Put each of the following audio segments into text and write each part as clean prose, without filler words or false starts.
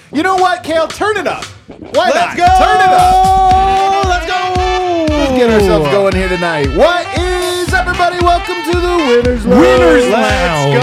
You know what, Kale? Turn it up. Why Let's not? go! Turn it up. Let's go! Let's get ourselves going here tonight. What is everybody? Welcome to the Winners Lounge. Winners Let's Lounge.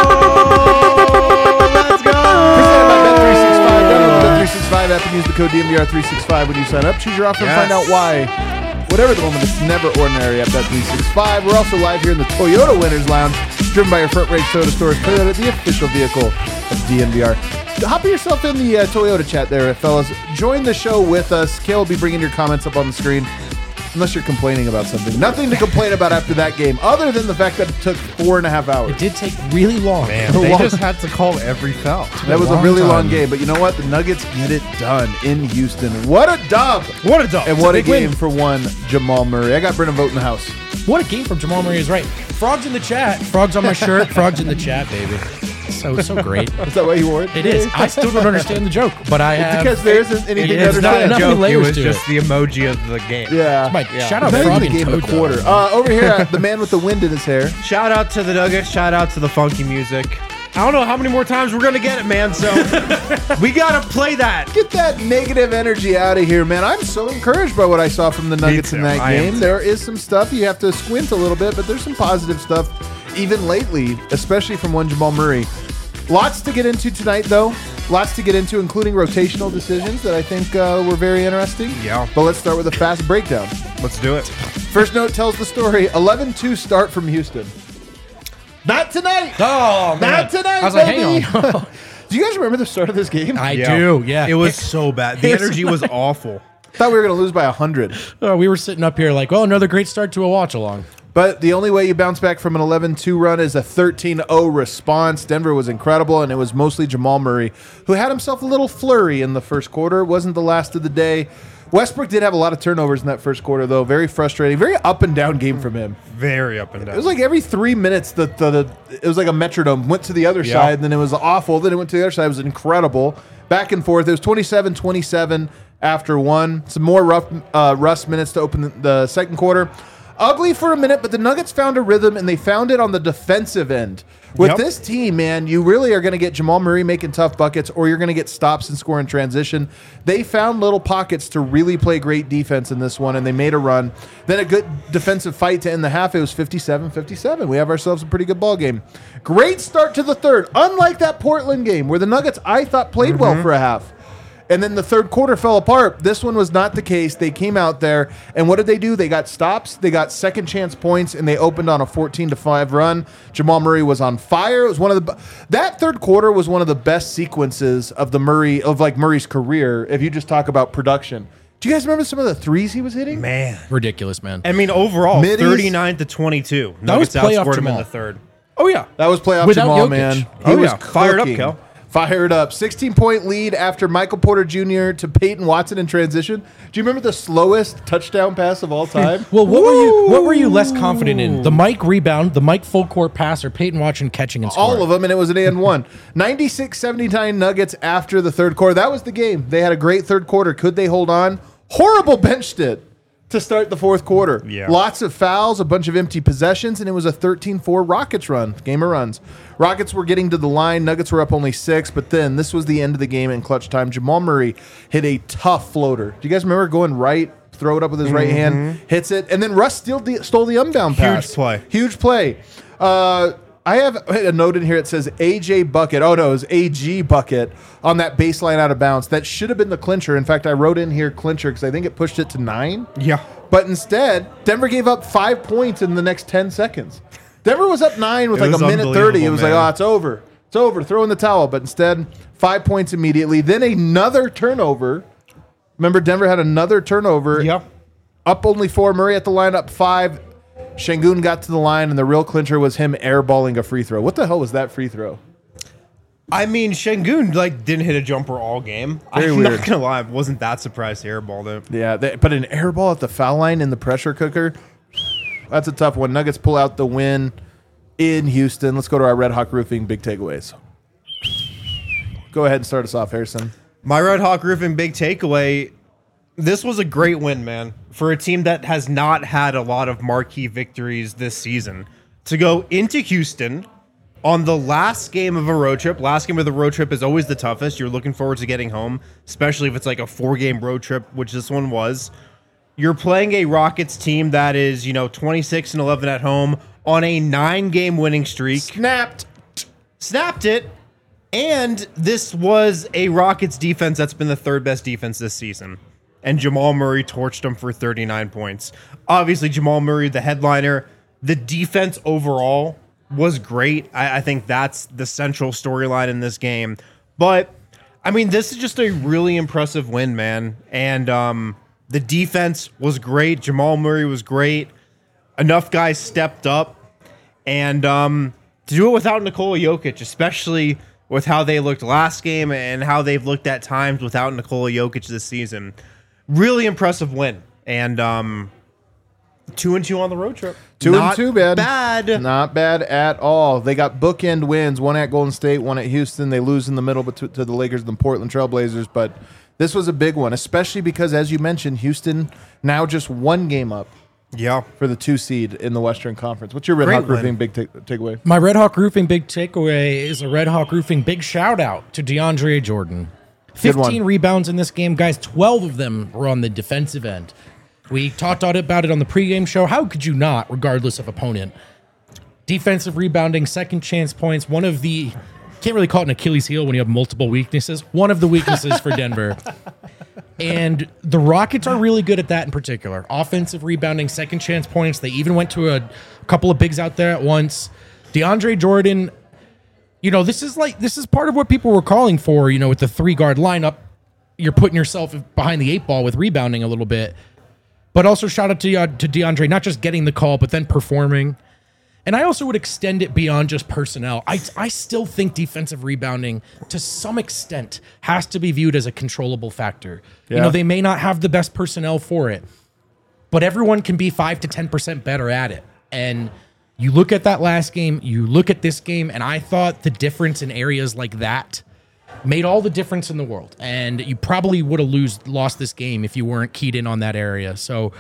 Let's go. Presented by Bet365. Download the Bet365 app and use the code DMVR365 when you sign up. Choose your offer and find out why. Whatever the moment, it's never ordinary at Bet365. We're also live here in the Toyota Winners Lounge, driven by your front range Toyota stores. Toyota, the official vehicle of DNVR. Hop yourself in the Toyota chat there, fellas. Join the show with us. Kale will be bringing your comments up on the screen. Unless you're complaining about something. Nothing to complain about after that game, other than the fact that it took 4.5 hours. It did take really long. Man, they just had to call every foul. That was a really long game, but you know what? The Nuggets get it done in Houston. What a dub! What a dub. And what a game for one Jamal Murray. I got Brennan Vogt in the house. What a game from Jamal Murray is right. Frogs in the chat. Frogs on my shirt. Frogs in the chat, baby. So great. Is that why you wore it? It is. I still don't understand the joke, but I have. Because there isn't anything to It's not understand. enough Joke, it layers was to just it. the emoji of the game. Yeah. Mike, shout out Not Frog even the and game of Toad, the quarter. though. Over here, the man with the wind in his hair. Shout out to the Nuggets. Shout out to the funky music. I don't know how many more times we're going to get it, man, so we got to play that. Get that negative energy out of here, man. I'm so encouraged by what I saw from the Nuggets in too. that I am game. too. There is some stuff. You have to squint a little bit, but there's some positive stuff, even lately, especially from one Jamal Murray. Lots to get into tonight, though. Lots to get into, including rotational decisions that I think were very interesting. Yeah. But let's start with a fast breakdown. Let's do it. First note tells the story. 11-2 start from Houston. Not tonight. Oh, man. Not tonight, I was like, baby. hang on. Do you guys remember the start of this game? I do, yeah. It was so bad. The energy was awful. Thought we were going to lose by 100. We were sitting up here like, well, another great start to a watch along. But the only way you bounce back from an 11-2 run is a 13-0 response. Denver was incredible, and it was mostly Jamal Murray, who had himself a little flurry in the first quarter. It wasn't the last of the day. Westbrook did have a lot of turnovers in that first quarter, though. Very frustrating. Very up and down game from him. Very up and down. It was like every 3 minutes, it was like a metronome. Went to the other side, and then it was awful. Then it went to the other side. It was incredible. Back and forth. It was 27-27 after one. Some more Russ minutes to open the second quarter. Ugly for a minute, but the Nuggets found a rhythm, and they found it on the defensive end. With this team, man, you really are going to get Jamal Murray making tough buckets, or you're going to get stops and score in transition. They found little pockets to really play great defense in this one, and they made a run. Then a good defensive fight to end the half. It was 57-57. We have ourselves a pretty good ball game. Great start to the third, unlike that Portland game where the Nuggets, I thought, played well for a half. And then the third quarter fell apart. This one was not the case. They came out there, and what did they do? They got stops, they got second chance points, and they opened on a 14-5 run. Jamal Murray was on fire. It was one of that third quarter was one of the best sequences of Murray's career. If you just talk about production, do you guys remember some of the threes he was hitting? Man. Ridiculous, man. I mean, overall, Middies. 39-22. That was Nuggets playoff outscored him in Jamal. the third. Oh, yeah. That was playoff Without Jamal, Jokic. man. He Oh, was yeah. Fired up, cooking. Kel. Fired up. 16-point lead after Michael Porter Jr. to Peyton Watson in transition. Do you remember the slowest touchdown pass of all time? Well, what were you less confident in? The Mike rebound, the Mike full court pass, or Peyton Watson catching and scoring? All of them, and it was an and one. 96-79 Nuggets after the third quarter. That was the game. They had a great third quarter. Could they hold on? Horrible bench hit to start the fourth quarter. Yeah. Lots of fouls, a bunch of empty possessions, and it was a 13-4 Rockets run. Game of runs. Rockets were getting to the line. Nuggets were up only 6, but then this was the end of the game in clutch time. Jamal Murray hit a tough floater. Do you guys remember going right, throw it up with his right hand, hits it, and then Russ stole the unbound pass. Huge play. I have a note in here. It says AJ bucket. Oh, no, it was AG bucket on that baseline out of bounds. That should have been the clincher. In fact, I wrote in here clincher because I think it pushed it to 9. Yeah. But instead, Denver gave up 5 points in the next 10 seconds. Denver was up 9 with It like was a minute 30. It was like, unbelievable, oh, it's over. It's over. Throw in the towel. But instead, 5 points immediately. Then another turnover. Remember, Denver had another turnover. Yep. Up only 4. Murray at the line, up 5. Şengün got to the line, and the real clincher was him airballing a free throw. What the hell was that free throw? I mean, Şengün didn't hit a jumper all game. Very I'm weird. not gonna lie, I wasn't that surprised he airballed it. Yeah, but an airball at the foul line in the pressure cooker, that's a tough one. Nuggets pull out the win in Houston. Let's go to our Red Hawk Roofing big takeaways. Go ahead and start us off, Harrison. My Red Hawk Roofing big takeaway. This was a great win, man, for a team that has not had a lot of marquee victories this season. To go into Houston on the last game of a road trip, last game of the road trip is always the toughest. You're looking forward to getting home, especially if it's like a 4-game road trip, which this one was. You're playing a Rockets team that is, 26-11 at home on a 9-game winning streak. Snapped it. And this was a Rockets defense that's been the 3rd best defense this season. And Jamal Murray torched them for 39 points. Obviously, Jamal Murray, the headliner. The defense overall was great. I think that's the central storyline in this game. But, this is just a really impressive win, man. And the defense was great. Jamal Murray was great. Enough guys stepped up. And to do it without Nikola Jokic, especially with how they looked last game and how they've looked at times without Nikola Jokic this season. Really impressive win. And 2-2 on the road trip. 2-2, bad. Not bad at all. They got bookend wins, one at Golden State, one at Houston. They lose in the middle to the Lakers and the Portland Trailblazers, but this was a big one, especially because, as you mentioned, Houston now just 1 game up. Yeah, for the 2 seed in the Western Conference. What's your Red Hawk Roofing big takeaway? My Red Hawk Roofing big takeaway is a Red Hawk Roofing big shout out to DeAndre Jordan. 15 rebounds in this game, guys. 12 of them were on the defensive end. We talked about it on the pregame show. How could you not, regardless of opponent? Defensive rebounding, second chance points. One of the, can't really call it an Achilles heel when you have multiple weaknesses. One of the weaknesses for Denver. And the Rockets are really good at that in particular. Offensive rebounding, second chance points. They even went to a couple of bigs out there at once. DeAndre Jordan, this is part of what people were calling for, with the 3-guard lineup. You're putting yourself behind the 8 ball with rebounding a little bit. But also shout out to DeAndre, not just getting the call, but then performing. And I also would extend it beyond just personnel. I still think defensive rebounding, to some extent, has to be viewed as a controllable factor. Yeah. They may not have the best personnel for it, but everyone can be 5 to 10% better at it. And you look at that last game, you look at this game, and I thought the difference in areas like that made all the difference in the world. And you probably would have lost this game if you weren't keyed in on that area. So,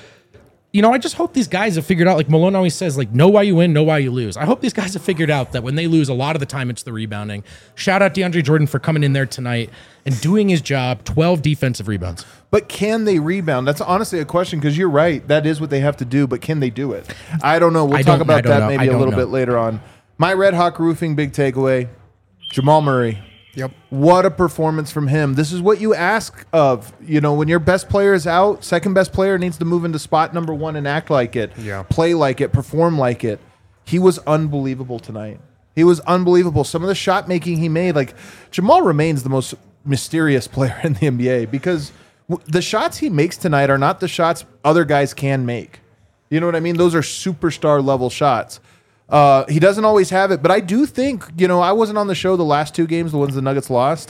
I just hope these guys have figured out, like Malone always says, know why you win, know why you lose. I hope these guys have figured out that when they lose, a lot of the time it's the rebounding. Shout out DeAndre Jordan for coming in there tonight and doing his job, 12 defensive rebounds. But can they rebound? That's honestly a question, because you're right. That is what they have to do, but can they do it? I don't know. We'll talk about that maybe a little bit later on. My Red Hawk Roofing big takeaway, Jamal Murray. Yep. What a performance from him. This is what you ask of. When your best player is out, second best player needs to move into spot number 1 and act like it. Yeah. Play like it, perform like it. He was unbelievable tonight. He was unbelievable. Some of the shot making he made, Jamal remains the most mysterious player in the NBA, because the shots he makes tonight are not the shots other guys can make. You know what I mean? Those are superstar level shots. He doesn't always have it, but I do think, I wasn't on the show the last 2 games, the ones the Nuggets lost.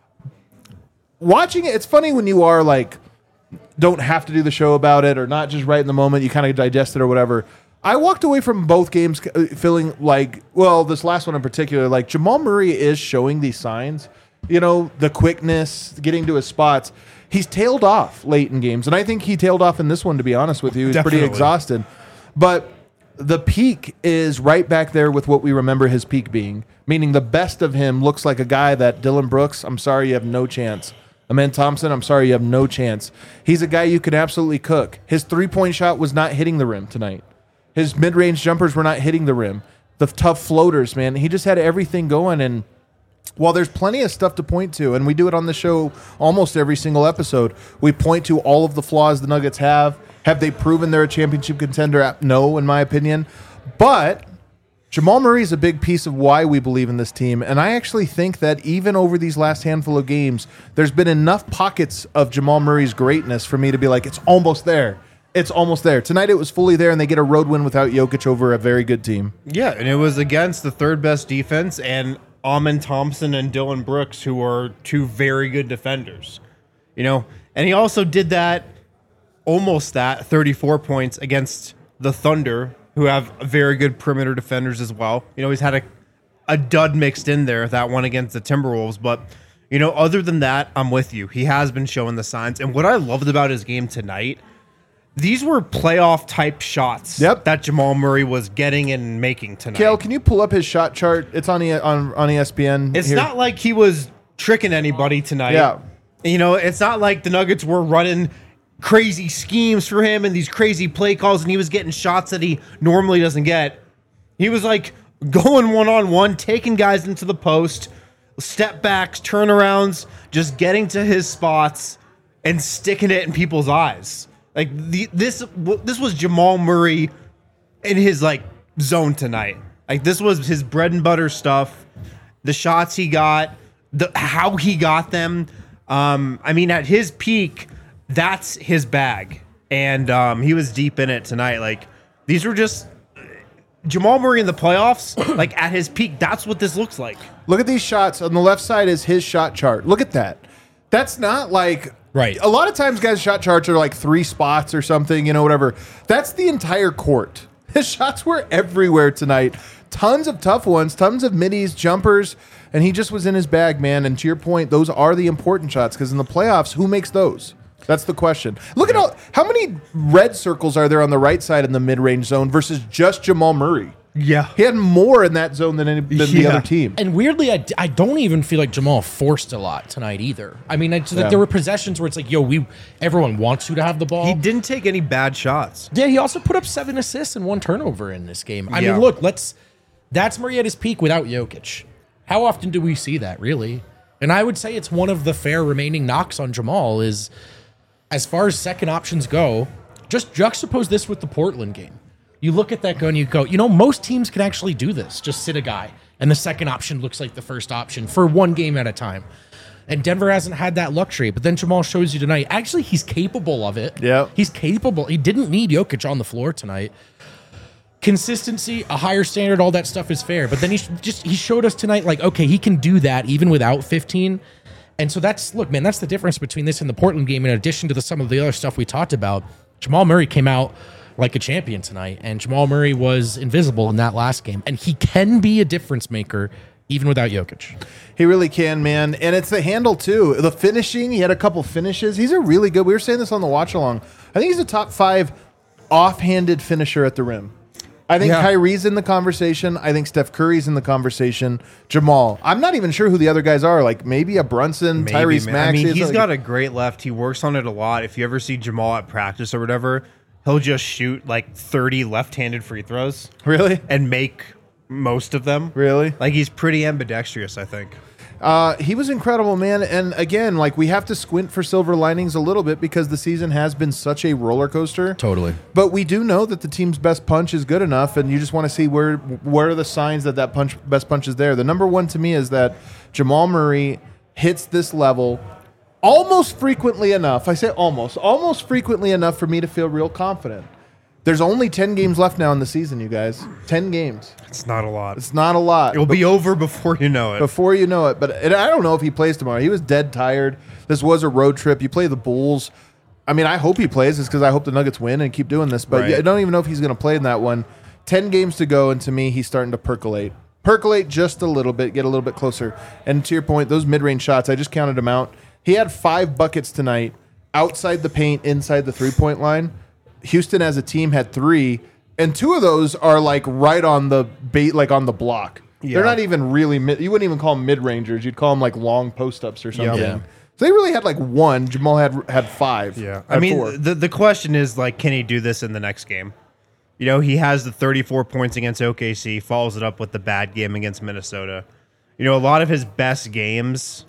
Watching it, it's funny when you are don't have to do the show about it, or not just right in the moment, you kind of digest it or whatever. I walked away from both games feeling this last one in particular, Jamal Murray is showing these signs, the quickness, getting to his spots. He's tailed off late in games, and I think he tailed off in this one, to be honest with you. He's pretty exhausted. But the peak is right back there with what we remember his peak being, meaning the best of him looks like a guy that Dylan Brooks, I'm sorry, you have no chance. Amen Thompson, I'm sorry, you have no chance. He's a guy you can absolutely cook. His 3-point shot was not hitting the rim tonight. His mid-range jumpers were not hitting the rim. The tough floaters, man. He just had everything going. And while there's plenty of stuff to point to, and we do it on the show almost every single episode, we point to all of the flaws the Nuggets have. Have they proven they're a championship contender? No, in my opinion. But Jamal Murray is a big piece of why we believe in this team. And I actually think that even over these last handful of games, there's been enough pockets of Jamal Murray's greatness for me to be like, it's almost there. It's almost there. Tonight it was fully there, and they get a road win without Jokic over a very good team. Yeah, and it was against the 3rd best defense, and Amen Thompson and Dylan Brooks, who are 2 very good defenders. And he also did that, almost that, 34 points against the Thunder, who have very good perimeter defenders as well. He's had a dud mixed in there, that one against the Timberwolves. But, other than that, I'm with you. He has been showing the signs. And what I loved about his game tonight, these were playoff type shots that Jamal Murray was getting and making tonight. Kale, can you pull up his shot chart? It's on ESPN. It's not like he was tricking anybody tonight. Yeah. It's not like the Nuggets were running crazy schemes for him and these crazy play calls and he was getting shots that he normally doesn't get. He was like going one-on-one, taking guys into the post, step backs, turnarounds, just getting to his spots and sticking it in people's eyes. Like this was Jamal Murray in his like zone tonight. Like this was his bread and butter stuff. The shots he got, how he got them. At his peak, that's his bag, and he was deep in it tonight. Like these were just Jamal Murray in the playoffs. Like at his peak, that's what this looks like. Look at these shots. On the left side is his shot chart. Look at that. That's not like right. A lot of times, guys' shot charts are like 3 spots or something. Whatever. That's the entire court. His shots were everywhere tonight. Tons of tough ones. Tons of middies, jumpers. And he just was in his bag, man. And to your point, those are the important shots because in the playoffs, who makes those? That's the question. Look at how many red circles are there on the right side in the mid-range zone versus just Jamal Murray? Yeah. He had more in that zone than the other team. And weirdly, I don't even feel like Jamal forced a lot tonight either. I mean, there were possessions where it's like, everyone wants you to have the ball. He didn't take any bad shots. Yeah, he also put up 7 assists and 1 turnover in this game. I mean, look, that's Murray at his peak without Jokic. How often do we see that, really? And I would say it's one of the fair remaining knocks on Jamal is, as far as second options go, just juxtapose this with the Portland game. You look at that go and you go, most teams can actually do this. Just sit a guy, and the second option looks like the first option for one game at a time. And Denver hasn't had that luxury. But then Jamal shows you tonight, actually, he's capable of it. Yeah. He's capable. He didn't need Jokic on the floor tonight. Consistency, a higher standard, all that stuff is fair. But then he showed us tonight, like, okay, he can do that even without 15. And so that's the difference between this and the Portland game. In addition to some of the other stuff we talked about, Jamal Murray came out like a champion tonight, and Jamal Murray was invisible in that last game. And he can be a difference maker even without Jokic. He really can, man. And it's the handle, too. The finishing, he had a couple finishes. He's a really good, we were saying this on the watch-along, I think he's a top 5 offhanded finisher at the rim. I think Kyrie's in the conversation. I think Steph Curry's in the conversation. Jamal. I'm not even sure who the other guys are. Like maybe a Brunson, Tyrese Maxey. I mean, he's got a great left. He works on it a lot. If you ever see Jamal at practice or whatever, he'll just shoot like 30 left-handed free throws. Really? And make most of them. Really? Like he's pretty ambidextrous, I think. He was incredible, man. And again, like we have to squint for silver linings a little bit because the season has been such a roller coaster. Totally. But we do know that the team's best punch is good enough, and you just want to see where are the signs that best punch is there. The number one to me is that Jamal Murray hits this level almost frequently enough. I say almost frequently enough for me to feel real confident. There's only 10 games left now in the season, you guys. 10 games. It's not a lot. It's not a lot. It'll be over before you know it. Before you know it. But I don't know if he plays tomorrow. He was dead tired. This was a road trip. You play the Bulls. I mean, I hope he plays this because I hope the Nuggets win and keep doing this. But I don't even know if he's going to play in that one. 10 games to go, and to me, he's starting to percolate. Percolate just a little bit, get a little bit closer. And to your point, those mid-range shots, I just counted them out. He had 5 buckets tonight outside the paint, inside the three-point line. Houston as a team had 3, and 2 of those are like right on the bait, like on the block. Yeah. They're not even really you wouldn't even call them mid-rangers. You'd call them like long post-ups or something. Yeah. So they really had like 1. Jamal had 5. Yeah. I mean, 4. The question is like, can he do this in the next game? He has the 34 points against OKC, follows it up with the bad game against Minnesota. A lot of his best games,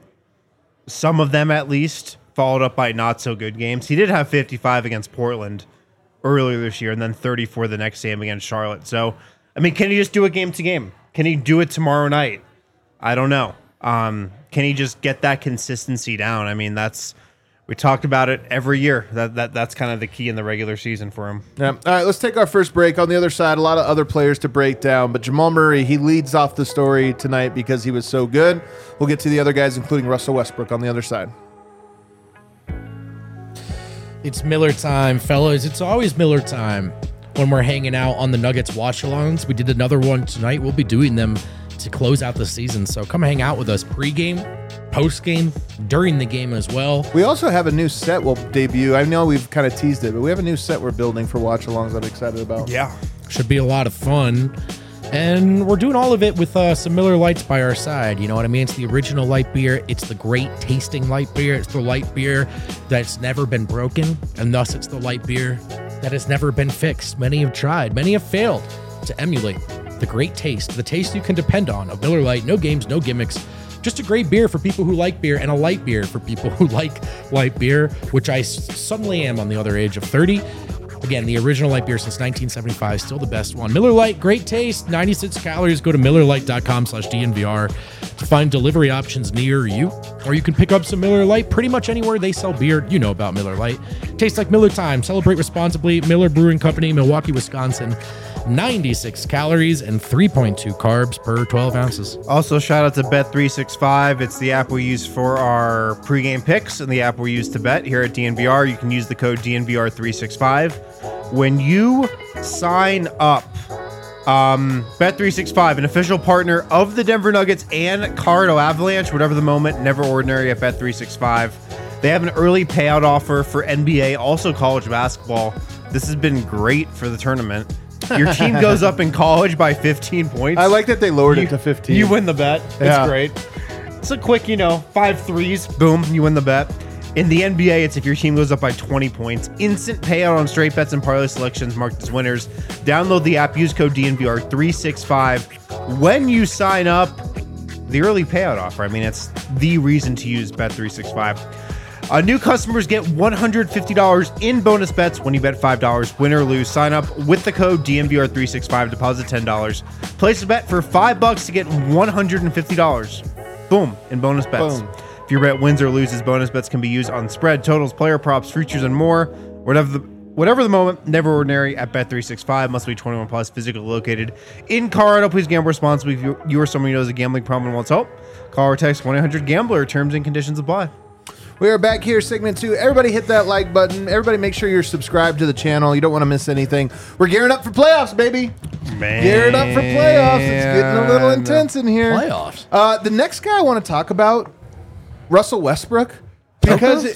some of them at least, followed up by not so good games. He did have 55 against Portland earlier this year, and then 34 the next game against Charlotte. So, I mean, can he just do it game to game? Can he do it tomorrow night? I don't know. Can he just get that consistency down? I mean, we talked about it every year. That's kind of the key in the regular season for him. Yeah. All right, let's take our first break. On the other side, a lot of other players to break down, but Jamal Murray, he leads off the story tonight because he was so good. We'll get to the other guys, including Russell Westbrook, on the other side. It's Miller time, fellas. It's always Miller time when we're hanging out on the Nuggets watch-alongs. We did another one tonight. We'll be doing them to close out the season. So come hang out with us pregame, postgame, during the game as well. We also have a new set we'll debut. I know we've kind of teased it, but we have a new set we're building for watch-alongs that I'm excited about. Yeah. Should be a lot of fun. And we're doing all of it with some Miller Lights by our side. You know what I mean? It's the original light beer. It's the great tasting light beer. It's the light beer that's never been broken. And thus it's the light beer that has never been fixed. Many have tried. Many have failed to emulate the great taste, the taste you can depend on of Miller Lite. No games, no gimmicks. Just a great beer for people who like beer and a light beer for people who like light beer, which I suddenly am on the other age of 30. Again, the original light beer since 1975, still the best one. Miller Lite, great taste, 96 calories. Go to MillerLite.com/DNVR to find delivery options near you. Or you can pick up some Miller Lite pretty much anywhere they sell beer. You know about Miller Lite. Tastes like Miller time. Celebrate responsibly. Miller Brewing Company, Milwaukee, Wisconsin. 96 calories and 3.2 carbs per 12 ounces. Also, shout out to Bet365. It's the app we use for our pregame picks and the app we use to bet here at DNVR. You can use the code DNVR365. When you sign up, Bet365, an official partner of the Denver Nuggets and Colorado Avalanche, whatever the moment, never ordinary at Bet365. They have an early payout offer for NBA, also college basketball. This has been great for the tournament. Your team goes up in college by 15 points. I like that they lowered it to 15. You win the bet. Yeah. It's great. It's a quick, 5 threes. Boom, you win the bet. In the NBA, it's if your team goes up by 20 points. Instant payout on straight bets and parlay selections marked as winners. Download the app. Use code DNVR365. When you sign up, the early payout offer. I mean, it's the reason to use Bet365. New customers get $150 in bonus bets when you bet $5, win or lose. Sign up with the code DNVR365, deposit $10. Place a bet for $5 to get $150. Boom, in bonus bets. Boom. If your bet wins or loses, bonus bets can be used on spread, totals, player props, futures, and more. Whatever the moment, never ordinary at Bet365. Must be 21 plus, physically located in Colorado. Please gamble responsibly. If you or someone you know has a gambling problem and wants help, call or text 1-800-GAMBLER. Terms and conditions apply. We are back here, segment 2. Everybody hit that like button. Everybody make sure you're subscribed to the channel. You don't want to miss anything. We're gearing up for playoffs, baby. Man. Gearing up for playoffs. It's getting a little intense in here. Playoffs. The next guy I want to talk about, Russell Westbrook, because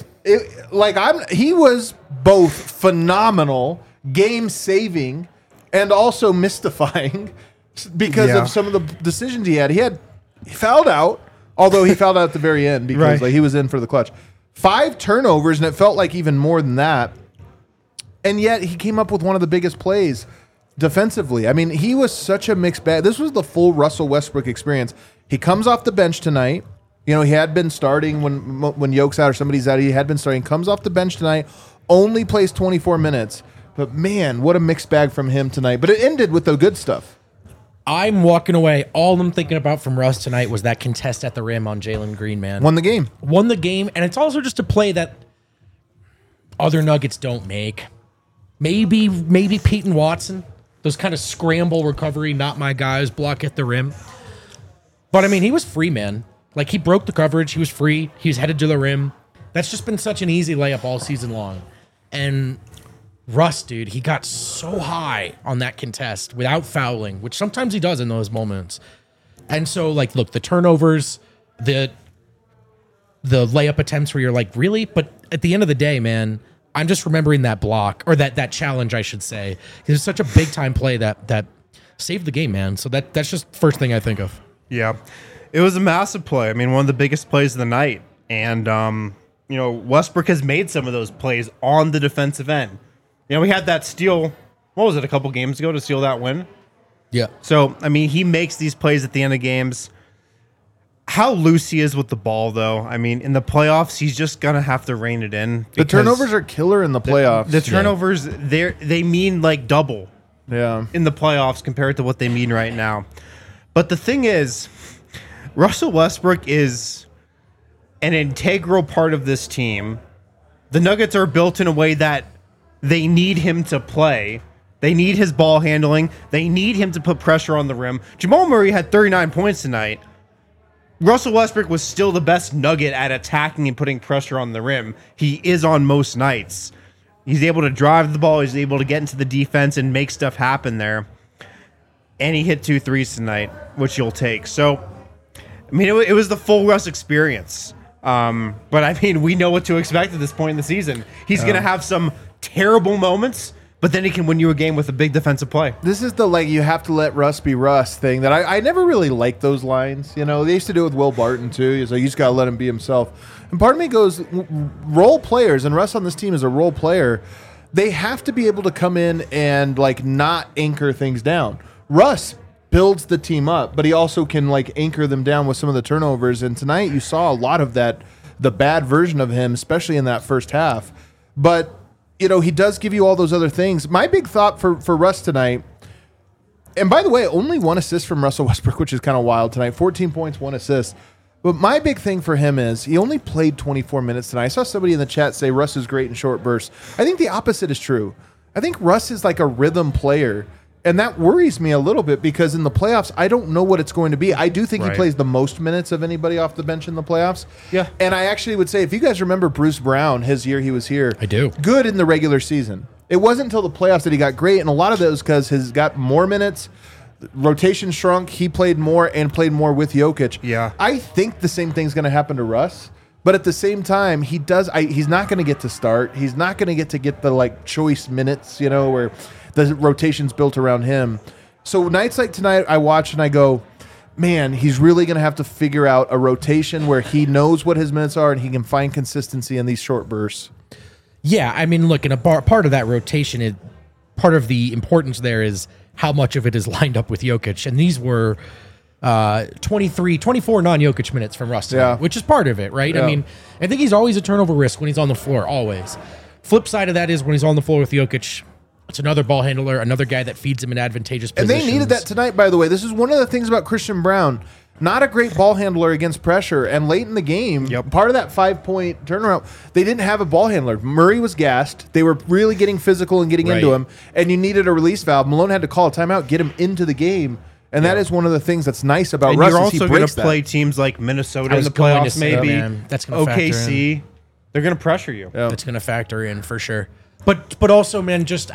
he was both phenomenal, game-saving, and also mystifying because of some of the decisions he had. He fouled out, although he fouled out at the very end because he was in for the clutch. 5 turnovers, and it felt like even more than that. And yet he came up with one of the biggest plays defensively. I mean, he was such a mixed bag. This was the full Russell Westbrook experience. He comes off the bench tonight. You know, he had been starting when Yoke's out or somebody's out. He had been starting. Comes off the bench tonight. Only plays 24 minutes. But, man, what a mixed bag from him tonight. But it ended with the good stuff. I'm walking away. All I'm thinking about from Russ tonight was that contest at the rim on Jalen Green, man. Won the game. Won the game, and it's also just a play that other Nuggets don't make. Maybe Peyton Watson, those kind of scramble recovery, not my guys, block at the rim. But, I mean, he was free, man. Like, he broke the coverage. He was free. He was headed to the rim. That's just been such an easy layup all season long. And Russ, dude, he got so high on that contest without fouling, which sometimes he does in those moments. And so, like, look, the turnovers, the layup attempts where you're like, really? But at the end of the day, man, I'm just remembering that block, or that challenge, I should say. It was such a big-time play that saved the game, man. So that's just the first thing I think of. Yeah. It was a massive play. I mean, one of the biggest plays of the night. And, Westbrook has made some of those plays on the defensive end. We had that steal, what was it, a couple games ago to steal that win? Yeah. So, I mean, he makes these plays at the end of games. How loose he is with the ball, though. I mean, in the playoffs, he's just going to have to rein it in. The turnovers are killer in the playoffs. The turnovers, they mean like double in the playoffs compared to what they mean right now. But the thing is, Russell Westbrook is an integral part of this team. The Nuggets are built in a way that they need him to play. They need his ball handling. They need him to put pressure on the rim. Jamal Murray had 39 points tonight. Russell Westbrook was still the best Nugget at attacking and putting pressure on the rim. He is on most nights. He's able to drive the ball. He's able to get into the defense and make stuff happen there. and he hit 2 threes tonight, which you'll take. So, I mean, it was the full Russ experience. But I mean, we know what to expect at this point in the season. He's going to have some terrible moments, but then he can win you a game with a big defensive play. This is the you have to let Russ be Russ thing that I never really liked those lines. You know, they used to do it with Will Barton too. He's like, you just got to let him be himself. And part of me goes, role players, and Russ on this team is a role player. They have to be able to come in and not anchor things down. Russ builds the team up, but he also can anchor them down with some of the turnovers. And tonight you saw a lot of that, the bad version of him, especially in that first half. But he does give you all those other things. My big thought for Russ tonight, and by the way, only 1 assist from Russell Westbrook, which is kind of wild tonight. 14 points, 1 assist. But my big thing for him is he only played 24 minutes tonight. I saw somebody in the chat say Russ is great in short bursts. I think the opposite is true. I think Russ is like a rhythm player. And that worries me a little bit because in the playoffs, I don't know what it's going to be. I do think he plays the most minutes of anybody off the bench in the playoffs. Yeah. And I actually would say, if you guys remember Bruce Brown, his year he was here. I do. Good in the regular season. It wasn't until the playoffs that he got great. And a lot of that was because he's got more minutes. Rotation shrunk. He played more and played more with Jokic. Yeah. I think the same thing's going to happen to Russ. But at the same time, he's not going to get to start. He's not going to get the choice minutes, where the rotation's built around him. So nights like tonight, I watch and I go, man, he's really going to have to figure out a rotation where he knows what his minutes are and he can find consistency in these short bursts. Yeah, I mean, look, in a part of that rotation, part of the importance there is how much of it is lined up with Jokic. And these were 24 non-Jokic minutes from Russ tonight, which is part of it, right? Yeah. I mean, I think he's always a turnover risk when he's on the floor, always. Flip side of that is when he's on the floor with Jokic, it's another ball handler, another guy that feeds him in advantageous positions. And they needed that tonight, by the way. This is one of the things about Christian Brown. Not a great ball handler against pressure. And late in the game, part of that 5-point turnaround, they didn't have a ball handler. Murray was gassed. They were really getting physical and getting into him. And you needed a release valve. Malone had to call a timeout, get him into the game. And that is one of the things that's nice about and Russ. You're also going to play teams like Minnesota in the playoffs, maybe. That's going to OKC. They're going to pressure you. Yeah. That's going to factor in for sure. But also, man, just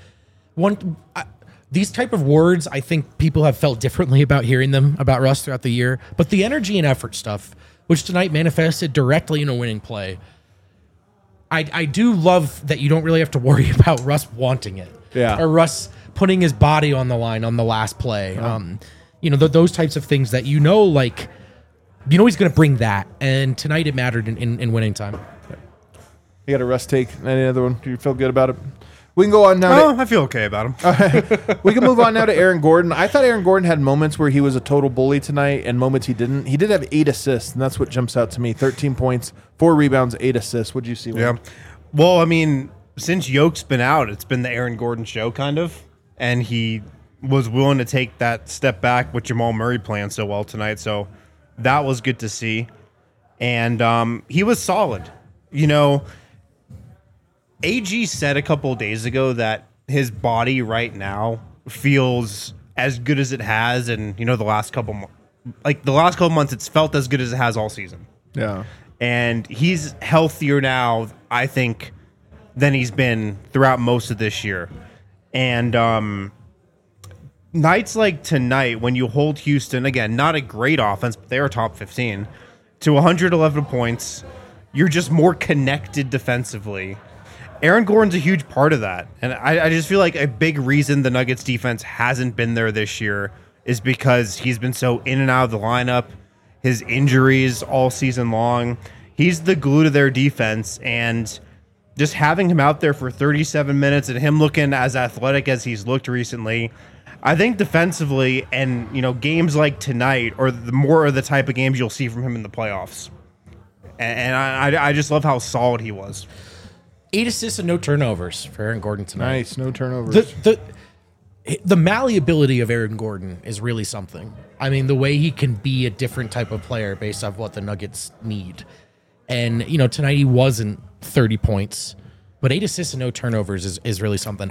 these type of words, I think people have felt differently about hearing them about Russ throughout the year. But the energy and effort stuff, which tonight manifested directly in a winning play, I do love that you don't really have to worry about Russ wanting it. Yeah. Or Russ putting his body on the line on the last play. Those types of things that he's going to bring that. And tonight it mattered in winning time. You got a Russ take? Any other one? Do you feel good about it? We can go on now. I feel okay about him. We can move on now to Aaron Gordon. I thought Aaron Gordon had moments where he was a total bully tonight and moments he didn't. He did have 8 assists, and that's what jumps out to me. 13 points, 4 rebounds, 8 assists. What'd you see? Yeah. Well, I mean, since Yoke's been out, it's been the Aaron Gordon show, kind of. And he was willing to take that step back with Jamal Murray playing so well tonight. So that was good to see. And he was solid. AG said a couple of days ago that his body right now feels as good as it has, and the last couple months, it's felt as good as it has all season. Yeah, and he's healthier now, I think, than he's been throughout most of this year. And nights like tonight, when you hold Houston, again, not a great offense, but they are top 15, to 111 points, you're just more connected defensively. Aaron Gordon's a huge part of that. And I just feel like a big reason the Nuggets defense hasn't been there this year is because he's been so in and out of the lineup, his injuries all season long. He's the glue to their defense, and just having him out there for 37 minutes and him looking as athletic as he's looked recently, I think defensively and, games like tonight are the type of games you'll see from him in the playoffs. And I just love how solid he was. 8 assists and no turnovers for Aaron Gordon tonight. Nice, no turnovers. The malleability of Aaron Gordon is really something. I mean, the way he can be a different type of player based off what the Nuggets need. And, tonight he wasn't 30 points, but 8 assists and no turnovers is really something.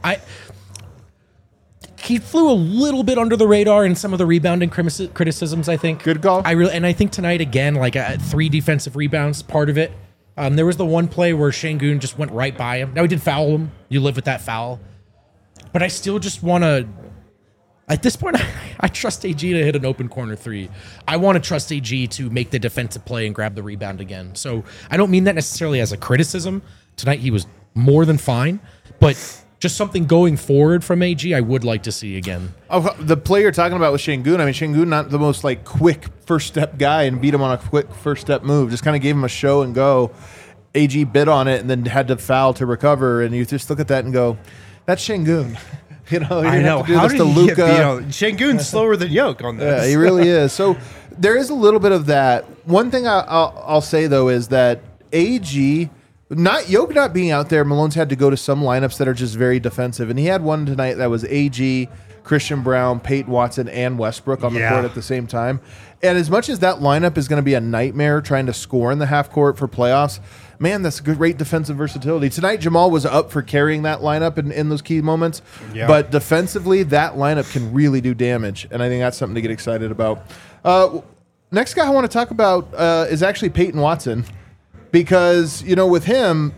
He flew a little bit under the radar in some of the rebounding criticisms, I think. Good call. I think tonight, again, 3 defensive rebounds, part of it. There was the one play where Şengün just went right by him. Now, he did foul him. You live with that foul. But I still just want to... At this point, I trust AG to hit an open corner three. I want to trust AG to make the defensive play and grab the rebound again. So I don't mean that necessarily as a criticism. Tonight he was more than fine, but just something going forward from AG I would like to see again. Oh, the play you're talking about with Şengün, I mean, Şengün not the most like quick first step guy and beat him on a quick first step move. Just kind of gave him a show and go. AG bit on it and then had to foul to recover. And you just look at that and go, that's Şengün. You know, I know. How did he get beat on? Şengün's slower than Yoke on this. Yeah, he really is. So there is a little bit of that. One thing I'll say, though, is that AG, Yoke not being out there, Malone's had to go to some lineups that are just very defensive. And he had one tonight that was AG, Christian Braun, Peyton Watson, and Westbrook on the court at the same time. And as much as that lineup is going to be a nightmare trying to score in the half court for playoffs, man, that's great defensive versatility. Tonight, Jamal was up for carrying that lineup in those key moments. Yeah. But defensively, that lineup can really do damage. And I think that's something to get excited about. Next guy I want to talk about is actually Peyton Watson. Because, you know, with him,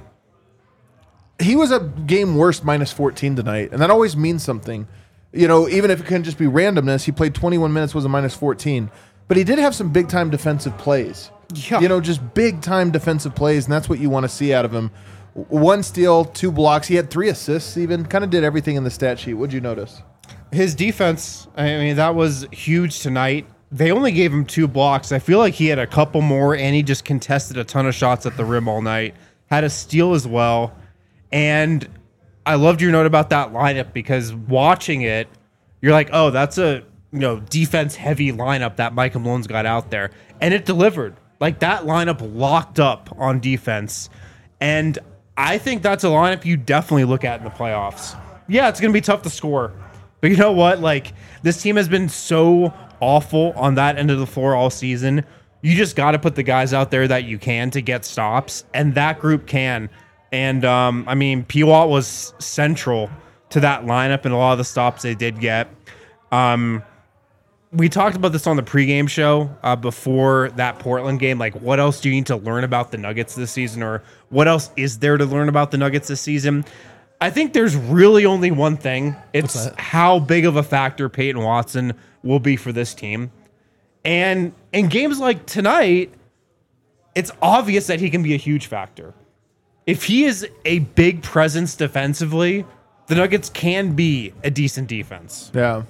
he was a game worst minus 14 tonight. And that always means something. You know, even if it can just be randomness, he played 21 minutes, was a minus 14. But he did have some big-time defensive plays. Yeah. You know, just big-time defensive plays, and that's what you want to see out of him. 1 steal, 2 blocks. He had 3 assists even. Kind of did everything in the stat sheet. What'd you notice? His defense, I mean, that was huge tonight. They only gave him 2 blocks. I feel like he had a couple more, and he just contested a ton of shots at the rim all night. Had a steal as well. And I loved your note about that lineup because watching it, you're like, oh, that's a defense-heavy lineup that Micah Malone's got out there. And it delivered. Like, that lineup locked up on defense. And I think that's a lineup you definitely look at in the playoffs. Yeah, it's going to be tough to score. But you know what? Like, this team has been so awful on that end of the floor all season. You just got to put the guys out there that you can to get stops. And that group can. And, I mean, P-Watt was central to that lineup and a lot of the stops they did get. We talked about this on the pregame show before that Portland game. Like, what else do you need to learn about the Nuggets this season, or what else is there to learn about the Nuggets this season? I think there's really only one thing. It's how big of a factor Peyton Watson will be for this team. And in games like tonight, it's obvious that he can be a huge factor. If he is a big presence defensively, the Nuggets can be a decent defense. Yeah.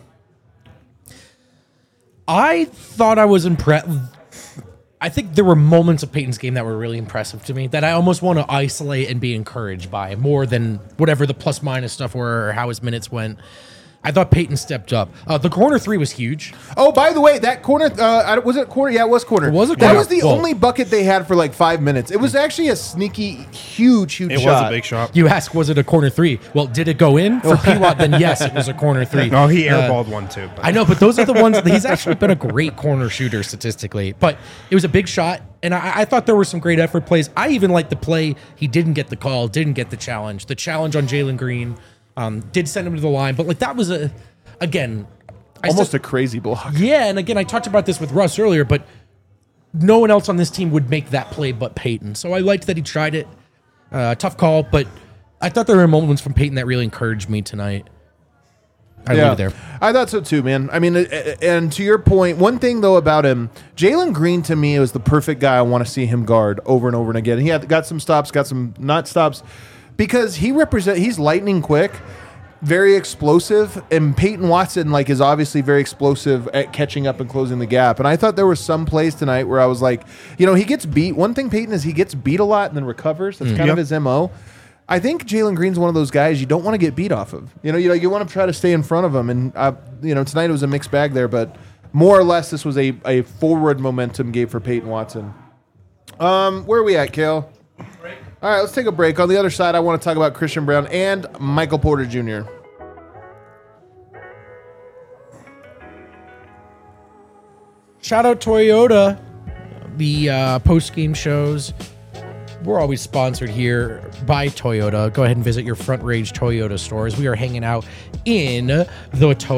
I thought I was impressed. I think there were moments of Peyton's game that were really impressive to me that I almost want to isolate and be encouraged by more than whatever the plus minus stuff were or how his minutes went. I thought Peyton stepped up. The corner 3 was huge. Oh, by the way, that corner, was it corner? Yeah, it was corner. It was a corner. That was the Whoa. only bucket they had for like 5 minutes. It was actually a sneaky, huge shot. It was a big shot. You ask, was it a corner 3? Well, did it go in? For P-Watt, then yes, it was a corner 3. No, he airballed one too. But. I know, but those are the ones, he's actually been a great corner shooter statistically. But it was a big shot, and I thought there were some great effort plays. I even liked the play. He didn't get the call, didn't get the challenge. The challenge on Jalen Green did send him to the line, but like that was Again, almost a crazy block. Yeah, and again, I talked about this with Russ earlier, but no one else on this team would make that play but Peyton. So I liked that he tried it. Tough call, but I thought there were moments from Peyton that really encouraged me tonight. I leave it there. I thought so too, man. I mean, and to your point, one thing though about him, Jalen Green to me was the perfect guy I want to see him guard over and over and again. He got some stops, got some not stops, because he's lightning quick. Very explosive, and Peyton Watson is obviously very explosive at catching up and closing the gap. And I thought there were some plays tonight where I was like, he gets beat. One thing Peyton is he gets beat a lot and then recovers. That's kind of his MO. I think Jalen Green's one of those guys you don't want to get beat off of. You want to try to stay in front of him. And tonight it was a mixed bag there, but more or less this was a forward momentum game for Peyton Watson. Where are we at, Kale? All right, let's take a break. On the other side, I want to talk about Christian Braun and Michael Porter Jr. Shout out Toyota, the post-game shows. We're always sponsored here by Toyota. Go ahead and visit your Front Range Toyota stores. We are hanging out in the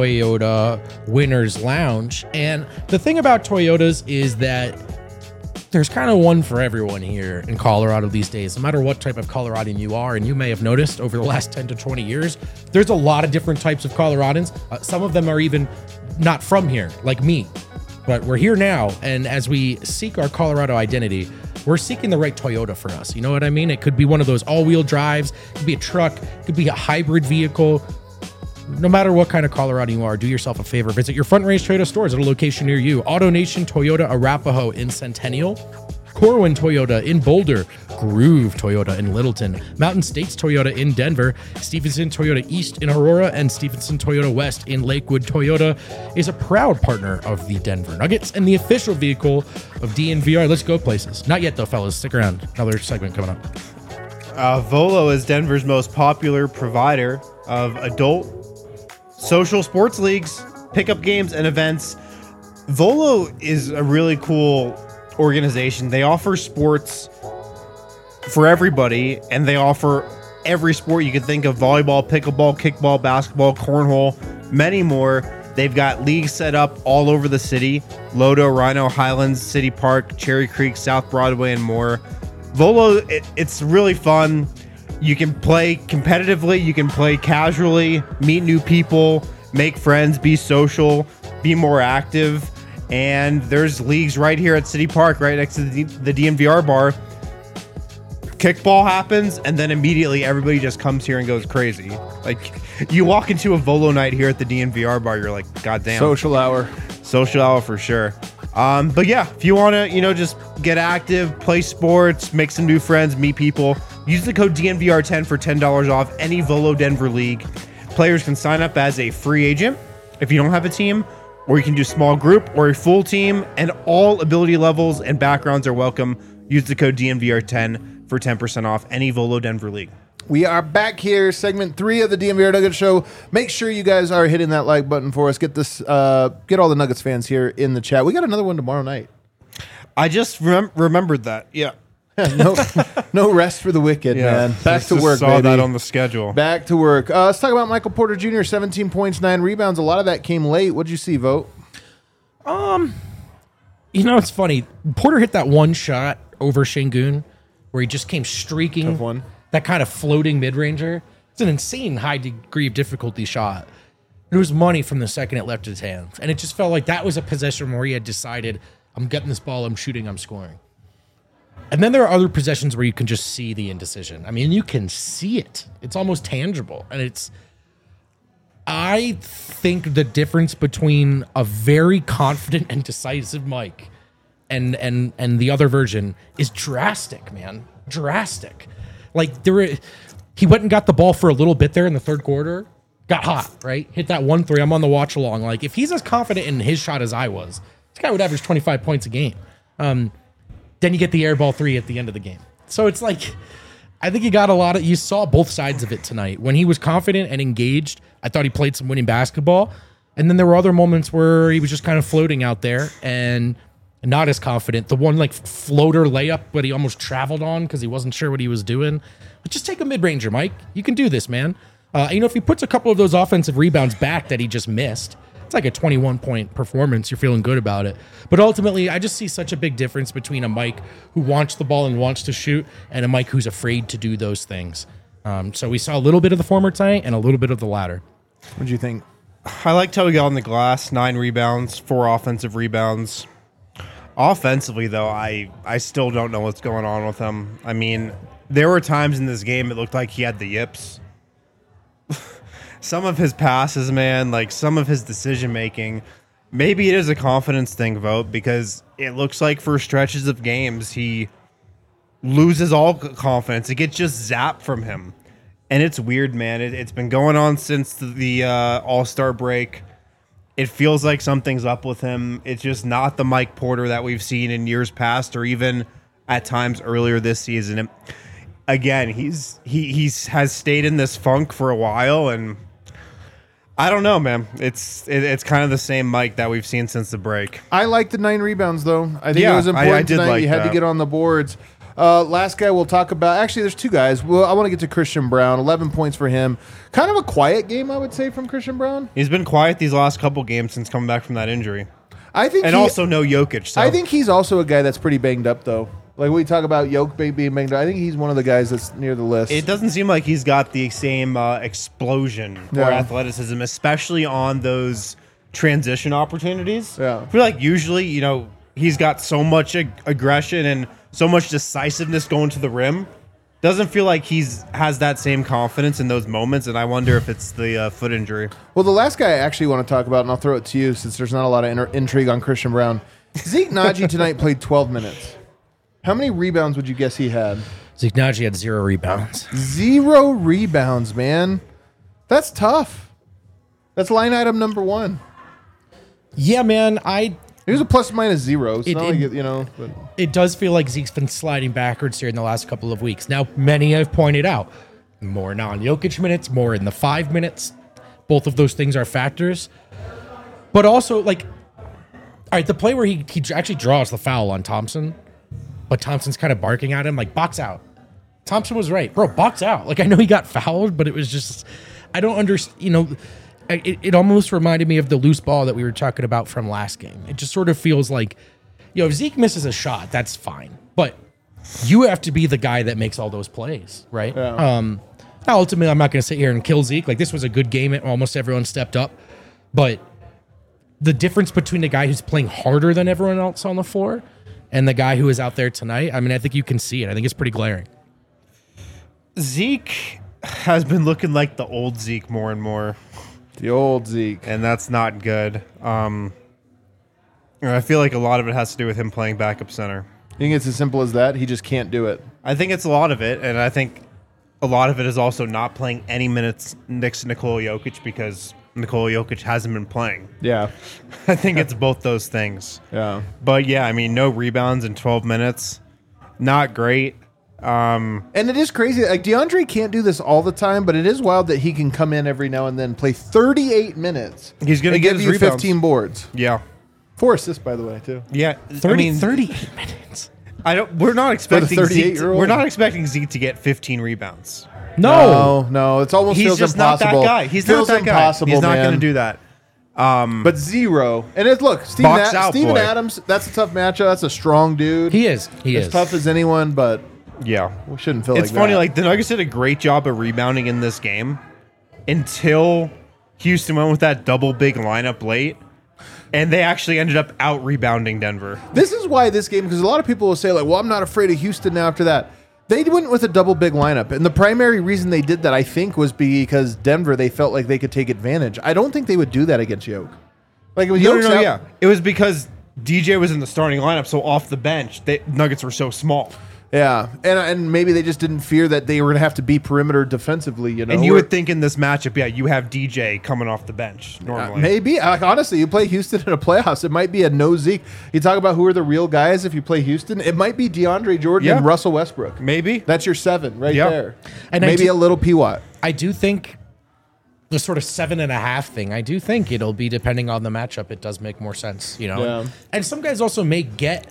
Toyota Winners Lounge. And the thing about Toyotas is that there's kind of one for everyone here in Colorado these days, no matter what type of Coloradan you are. And you may have noticed over the last 10 to 20 years, there's a lot of different types of Coloradans. Some of them are even not from here, like me. But we're here now, and as we seek our Colorado identity, we're seeking the right Toyota for us. You know what I mean? It could be one of those all-wheel drives, it could be a truck, it could be a hybrid vehicle. No matter what kind of Colorado you are, do yourself a favor. Visit your Front Range Toyota stores at a location near you. AutoNation Toyota Arapahoe in Centennial, Corwin Toyota in Boulder, Groove Toyota in Littleton, Mountain States Toyota in Denver, Stevenson Toyota East in Aurora, and Stevenson Toyota West in Lakewood. Toyota is a proud partner of the Denver Nuggets and the official vehicle of DNVR. Let's go places. Not yet though, fellas. Stick around. Another segment coming up. Volo is Denver's most popular provider of adult social sports leagues, pickup games, and events. Volo is a really cool organization. They offer sports for everybody, and they offer every sport you can think of: volleyball, pickleball, kickball, basketball, cornhole, many more. They've got leagues set up all over the city: Lodo, Rhino, Highlands, City Park, Cherry Creek, South Broadway, and more. Volo, it's really fun. You can play competitively, you can play casually, meet new people, make friends, be social, be more active. And there's leagues right here at City Park, right next to the DNVR bar. Kickball happens, and then immediately everybody just comes here and goes crazy. Like, you walk into a Volo night here at the DNVR bar, you're like, God damn. Social hour. Social hour for sure. But yeah, if you want to, just get active, play sports, make some new friends, meet people, use the code DNVR10 for $10 off any Volo Denver league. Players can sign up as a free agent if you don't have a team, or you can do small group or a full team, and all ability levels and backgrounds are welcome. Use the code DNVR10 for 10% off any Volo Denver league. We are back here, segment 3 of the DNVR Nuggets show. Make sure you guys are hitting that like button for us. Get this, get all the Nuggets fans here in the chat. We got another one tomorrow night. I just remembered that. Yeah. No rest for the wicked, man. Back to work, saw baby. that on the schedule. Back to work. Let's talk about Michael Porter Jr., 17 points, 9 rebounds. A lot of that came late. What'd you see, Vote? It's funny. Porter hit that one shot over Şengün where he just came streaking. Tough one. That kind of floating mid-ranger. It's an insane high degree of difficulty shot. It was money from the second it left his hands. And it just felt like that was a possession where he had decided, I'm getting this ball, I'm shooting, I'm scoring. And then there are other possessions where you can just see the indecision. I mean, you can see it. It's almost tangible. And I think the difference between a very confident and decisive Mike and the other version is drastic, man. Drastic. Like, he went and got the ball for a little bit there in the third quarter, got hot, right? Hit that 1-3. I'm on the watch along. Like, if he's as confident in his shot as I was, this guy would average 25 points a game. Then you get the air ball 3 at the end of the game. So it's like, I think you saw both sides of it tonight. When he was confident and engaged, I thought he played some winning basketball. And then there were other moments where he was just kind of floating out there and not as confident. The one floater layup, but he almost traveled on because he wasn't sure what he was doing. But just take a mid-ranger, Mike. You can do this, man. If he puts a couple of those offensive rebounds back that he just missed, it's like a 21-point performance. You're feeling good about it. But ultimately, I just see such a big difference between a Mike who wants the ball and wants to shoot and a Mike who's afraid to do those things. So we saw a little bit of the former tonight and a little bit of the latter. What do you think? I liked how he got on the glass, 9 rebounds, 4 offensive rebounds. Offensively, though, I still don't know what's going on with him. I mean, there were times in this game it looked like he had the yips. Some of his passes, man, some of his decision-making, maybe it is a confidence thing, Vote, because it looks like for stretches of games he loses all confidence. It gets just zapped from him. And it's weird, man. It's been going on since the All-Star break. It feels like something's up with him. It's just not the Mike Porter that we've seen in years past or even at times earlier this season. Again, he has stayed in this funk for a while, and I don't know, man. It's kind of the same Mike that we've seen since the break. I like the 9 rebounds, though. I think it was important tonight. Like you had to get on the boards. Last guy we'll talk about. Actually, there's 2 guys. Well, I want to get to Christian Braun. 11 points for him. Kind of a quiet game, I would say, from Christian Braun. He's been quiet these last couple games since coming back from that injury. I think, and also no Jokic. So. I think he's also a guy that's pretty banged up, though. Like we talk about Jokic being banged up. I think he's one of the guys that's near the list. It doesn't seem like he's got the same explosion or athleticism, especially on those transition opportunities. Yeah. I feel like usually, he's got so much aggression and so much decisiveness going to the rim. Doesn't feel like has that same confidence in those moments, and I wonder if it's the foot injury. Well, the last guy I actually want to talk about, and I'll throw it to you since there's not a lot of intrigue on Christian Braun. Zeke Naji tonight played 12 minutes. How many rebounds would you guess he had? Zeke Naji had 0 rebounds. 0 rebounds, man. That's tough. That's line item number 1. Yeah, man. He was a plus minus 0. It's not like but. It does feel like Zeke's been sliding backwards here in the last couple of weeks. Now, many have pointed out more non-Jokic minutes, more in the 5 minutes. Both of those things are factors. But also, all right, the play where he actually draws the foul on Thompson, but Thompson's kind of barking at him, box out. Thompson was right. Bro, box out. I know he got fouled, but it was just, I don't understand, It almost reminded me of the loose ball that we were talking about from last game. It just sort of feels like, if Zeke misses a shot, that's fine. But you have to be the guy that makes all those plays, right? Yeah. Now, ultimately, I'm not going to sit here and kill Zeke. This was a good game. Almost everyone stepped up. But the difference between the guy who's playing harder than everyone else on the floor and the guy who is out there tonight, I think you can see it. I think it's pretty glaring. Zeke has been looking like the old Zeke more and more. The old Zeke. And that's not good. I feel like a lot of it has to do with him playing backup center. You think it's as simple as that? He just can't do it. I think it's a lot of it, and I think a lot of it is also not playing any minutes next to Nikola Jokic because Nikola Jokic hasn't been playing. Yeah. I think it's both those things. Yeah. But yeah, no rebounds in 12 minutes. Not great. And it is crazy. DeAndre can't do this all the time, but it is wild that he can come in every now and then, play 38 minutes. He's going to give you rebounds. 15 boards. Yeah. 4 assists, by the way, too. Yeah. 38 minutes. We're not expecting Zeke. We're not expecting Zeke to get 15 rebounds. No. It's almost He's feels just impossible. not that guy. He's feels not that impossible, guy. He's not man. going to do that. But 0. And look, Steven Adams, that's a tough matchup. That's a strong dude. He is. As tough as anyone, but yeah, we shouldn't feel it's funny. The Nuggets did a great job of rebounding in this game until Houston went with that double big lineup late, and they actually ended up out rebounding Denver. This is why this game, because a lot of people will say, well, I'm not afraid of Houston now after that. They went with a double big lineup, and the primary reason they did that, I think, was because Denver, they felt like they could take advantage. I don't think they would do that against Yoke. Yeah. It was because DJ was in the starting lineup, so off the bench, Nuggets were so small. Yeah, and maybe they just didn't fear that they were going to have to be perimeter defensively, And you would think in this matchup, you have DJ coming off the bench normally. Maybe. Honestly, you play Houston in a playoffs, it might be a no Zeke. You talk about who are the real guys if you play Houston, it might be DeAndre Jordan and Russell Westbrook. Maybe. That's your 7 right there. And maybe a little P-Watt. I do think the sort of 7.5 thing, I do think it'll be, depending on the matchup, it does make more sense, Yeah. And some guys also may get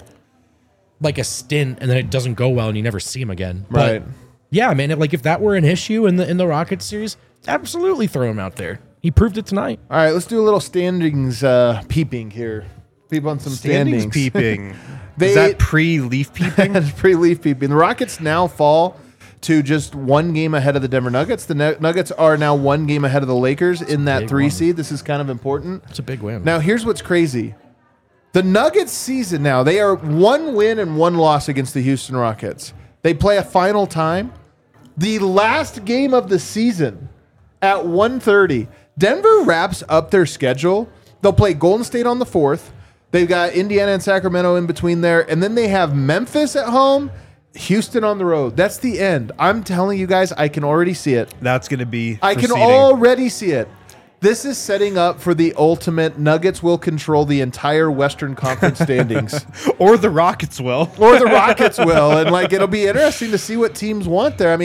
a stint and then it doesn't go well and you never see him again. Right. But yeah, man, if that were an issue in the Rockets series, absolutely throw him out there. He proved it tonight. All right, let's do a little standings peeping here. Peep on some standings. Peeping. Is that pre-leaf peeping? That's pre-leaf peeping. The Rockets now fall to just 1 game ahead of the Denver Nuggets. The Nuggets are now 1 game ahead of the Lakers in that 3 seed. This is kind of important. It's a big win. Now, here's what's crazy. The Nuggets season now, they are 1 win and 1 loss against the Houston Rockets. They play a final time. The last game of the season at 1:30. Denver wraps up their schedule. They'll play Golden State on the 4th. They've got Indiana and Sacramento in between there. And then they have Memphis at home, Houston on the road. That's the end. I'm telling you guys, I can already see it. That's going to be I can already see it. This is setting up for the ultimate. Nuggets will control the entire Western Conference standings. Or the Rockets will. Or the Rockets will. And it'll be interesting to see what teams want there.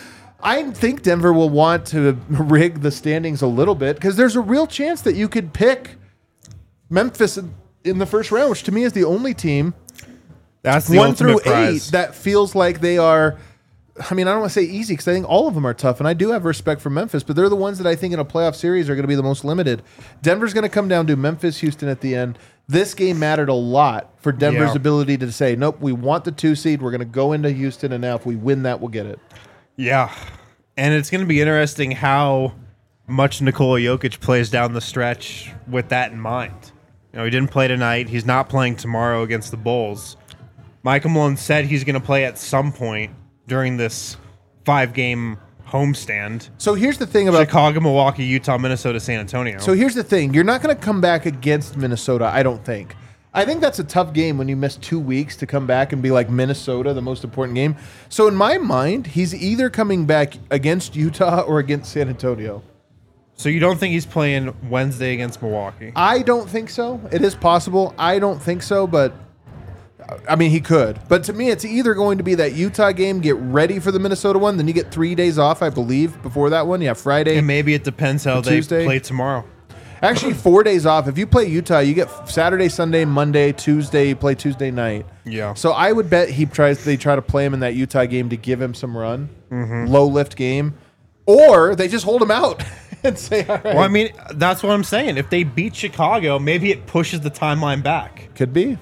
I think Denver will want to rig the standings a little bit because there's a real chance that you could pick Memphis in the first round, which to me is the only team that's the 1 through ultimate prize. 8 that feels like they are. I don't want to say easy because I think all of them are tough, and I do have respect for Memphis, but they're the ones that I think in a playoff series are going to be the most limited. Denver's going to come down to Memphis, Houston at the end. This game mattered a lot for Denver's Yeah. ability to say, nope, we want the 2 seed. We're going to go into Houston, and now if we win that, we'll get it. Yeah. And it's going to be interesting how much Nikola Jokic plays down the stretch with that in mind. You know, he didn't play tonight. He's not playing tomorrow against the Bulls. Michael Malone said he's going to play at some point during this 5-game homestand. So here's the thing about Chicago, Milwaukee, Utah, Minnesota, San Antonio. So here's the thing. You're not going to come back against Minnesota, I don't think. I think that's a tough game when you miss 2 weeks to come back and be like Minnesota, the most important game. So in my mind, he's either coming back against Utah or against San Antonio. So you don't think he's playing Wednesday against Milwaukee? I don't think so. It is possible. I don't think so, but I mean, he could. But to me, it's either going to be that Utah game, get ready for the Minnesota one, then you get 3 days off, I believe, before that one. Yeah, Friday. And maybe it depends how they Tuesday. play tomorrow. Actually, 4 days off. If you play Utah, you get Saturday, Sunday, Monday, Tuesday. You play Tuesday night. Yeah. So I would bet they try to play him in that Utah game to give him some run, low lift game, or they just hold him out and say, all right. Well, I mean, that's what I'm saying. If they beat Chicago, maybe it pushes the timeline back. Could be.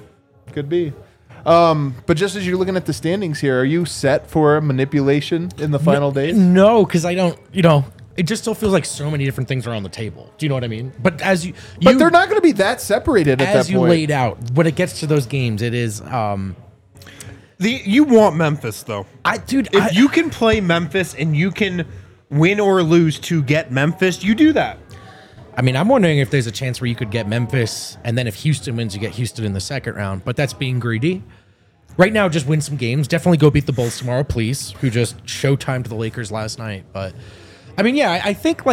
But just as you're looking at the standings here, are you set for manipulation in the final days? No, because I don't, it just still feels like so many different things are on the table. Do you know what I mean? But as but they're not going to be that separated at that point. As you laid out, when it gets to those games, it is. You want Memphis though, If you can play Memphis and you can win or lose to get Memphis, you do that. I mean, I'm wondering if there's a chance where you could get Memphis, and then if Houston wins, you get Houston in the second round. But that's being greedy. Right now, just win some games. Definitely go beat the Bulls tomorrow, please, who just showtime to the Lakers last night. But, I mean, yeah, I think,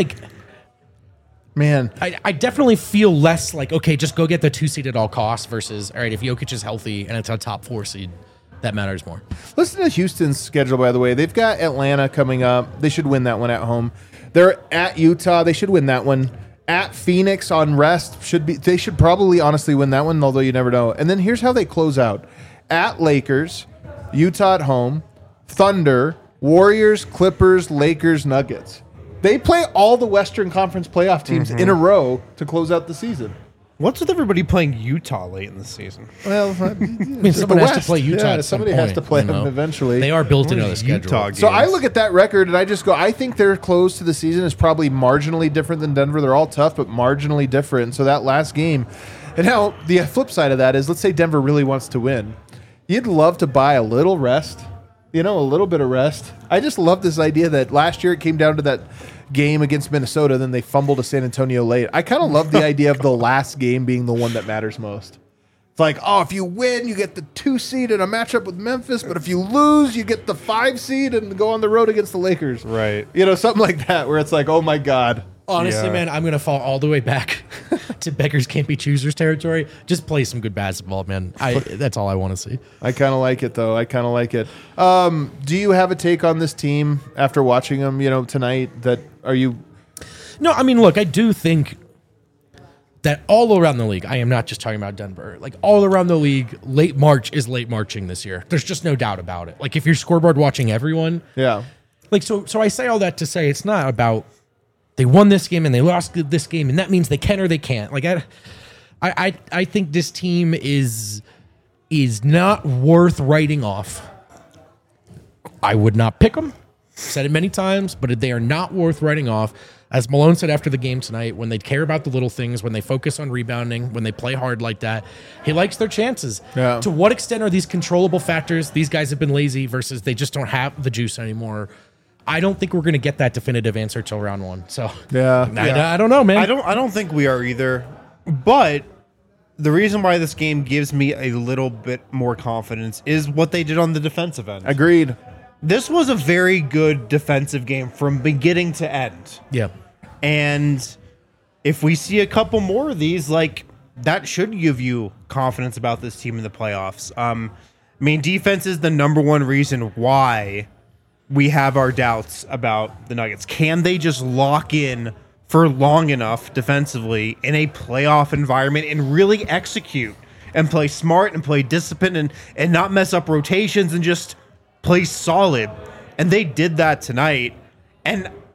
man, I definitely feel less like, okay, just go get the 2 seed at all costs versus, all right, if Jokic is healthy and it's a top 4 seed, that matters more. Listen to Houston's schedule, by the way. They've got Atlanta coming up. They should win that one at home. They're at Utah. They should win that one. At Phoenix on rest. They should probably honestly win that one, although you never know. And then here's how they close out. At Lakers, Utah at home, Thunder, Warriors, Clippers, Lakers, Nuggets. They play all the Western Conference playoff teams in a row to close out the season. What's with everybody playing Utah late in the season? Well, I mean, someone has to play Utah at some somebody point, has to play them eventually. They are built into the These schedule. Utah So I games. look at that record and I just go, I think their close to the season is probably marginally different than Denver. They're all tough, but marginally different. So that last game, and now the flip side of that is, let's say Denver really wants to win. You'd love to buy a little rest, a little bit of rest. I just love this idea that last year it came down to that game against Minnesota, then they fumbled to San Antonio late. I kind of love the idea of the last game being the one that matters most. It's like, oh, if you win, you get the 2 seed in a matchup with Memphis, but if you lose, you get the 5 seed and go on the road against the Lakers. Right. Something like that, where it's like, oh my God. Honestly, Yeah. man, I'm going to fall all the way back to beggars can't be choosers territory. Just play some good basketball, man. That's all I want to see. I kind of like it, though. I kind of like it. Do you have a take on this team after watching them, tonight? No, I mean, look, I do think that all around the league, I am not just talking about Denver, like all around the league, late March is late marching this year. There's just no doubt about it. Like if you're scoreboard watching everyone, Yeah. like, so I say all that to say it's not about they won this game and they lost this game, and that means they can or they can't. Like I think this team is not worth writing off. I would not pick them. Said it many times, but they are not worth writing off. As Malone said after the game tonight, when they care about the little things, when they focus on rebounding, when they play hard like that, he likes their chances. Yeah. To what extent are these controllable factors? These guys have been lazy versus they just don't have the juice anymore. I don't think we're going to get that definitive answer till round 1. So Yeah. I don't know, man. I don't think we are either. But the reason why this game gives me a little bit more confidence is what they did on the defensive end. Agreed. This was a very good defensive game from beginning to end. Yeah. And if we see a couple more of these, that should give you confidence about this team in the playoffs. Defense is the number one reason why we have our doubts about the Nuggets. Can they just lock in for long enough defensively in a playoff environment and really execute and play smart and play disciplined and not mess up rotations and just play solid? And they did that tonight. And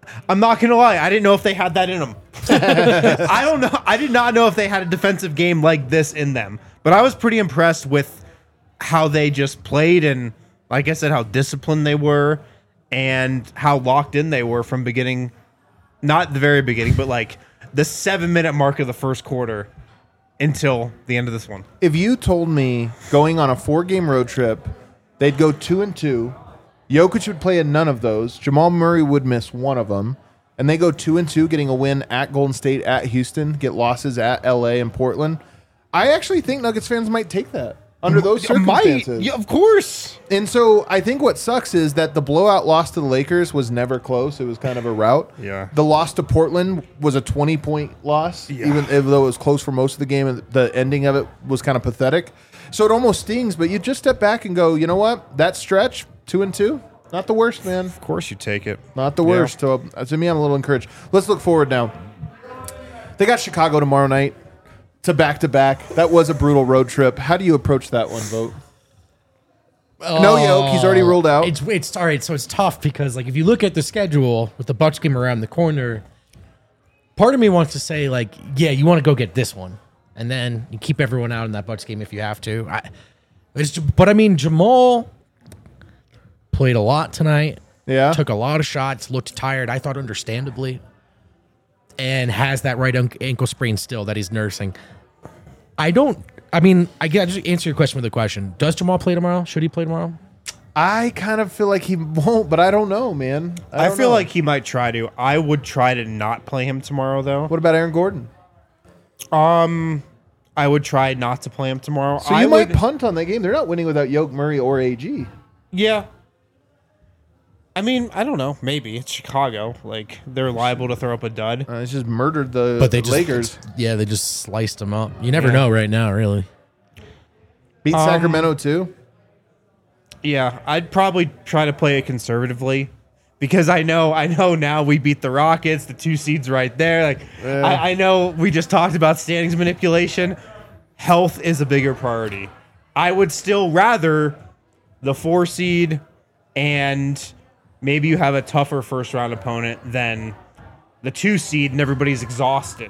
I'm not gonna lie. I didn't know if they had that in them. I don't know. I did not know if they had a defensive game like this in them. But I was pretty impressed with how they just played and, like I said, how disciplined they were and how locked in they were from beginning. Not the very beginning, but like the 7-minute mark of the first quarter until the end of this one. If you told me going on a 4-game road trip, they'd go 2-2. Jokic would play in none of those. Jamal Murray would miss one of them. And they go 2-2, getting a win at Golden State, at Houston, get losses at LA and Portland. I actually think Nuggets fans might take that under those circumstances. Yeah, of course. And so I think what sucks is that the blowout loss to the Lakers was never close. It was kind of a rout. Yeah. The loss to Portland was a 20-point loss, even though it was close for most of the game. And the ending of it was kind of pathetic. So it almost stings, but you just step back and go, you know what? That stretch, 2-2, not the worst, man. Of course you take it. Not the worst. So to me, I'm a little encouraged. Let's look forward now. They got Chicago tomorrow night to back-to-back. That was a brutal road trip. How do you approach that one, Vogt? No Yoke. He's already ruled out. It's all right. So it's tough because, like, if you look at the schedule with the Bucks game around the corner, part of me wants to say, like, yeah, you want to go get this one, and then you keep everyone out in that Bucks game if you have to. But I mean, Jamal played a lot tonight. Yeah. Took a lot of shots. Looked tired. I thought, understandably, and has that right ankle sprain still that he's nursing. I get just answer your question with a question. Does Jamal play tomorrow? Should he play tomorrow? I kind of feel like he won't, but I don't know, man. I feel like he might try to. I would try to not play him tomorrow, though. What about Aaron Gordon? I would try not to play him tomorrow. So you might punt on that game. They're not winning without Yoke, Murray, or AG. Yeah. I mean, I don't know. Maybe it's Chicago. Like, they're liable to throw up a dud. It's just murdered the Lakers. Yeah, they just sliced them up. You never know right now, really. Beat Sacramento too. Yeah, I'd probably try to play it conservatively because I know now we beat the Rockets, the 2 seeds right there. Like, I know we just talked about standings manipulation. Health is a bigger priority. I would still rather the 4 seed and maybe you have a tougher first round opponent than the 2 seed and everybody's exhausted.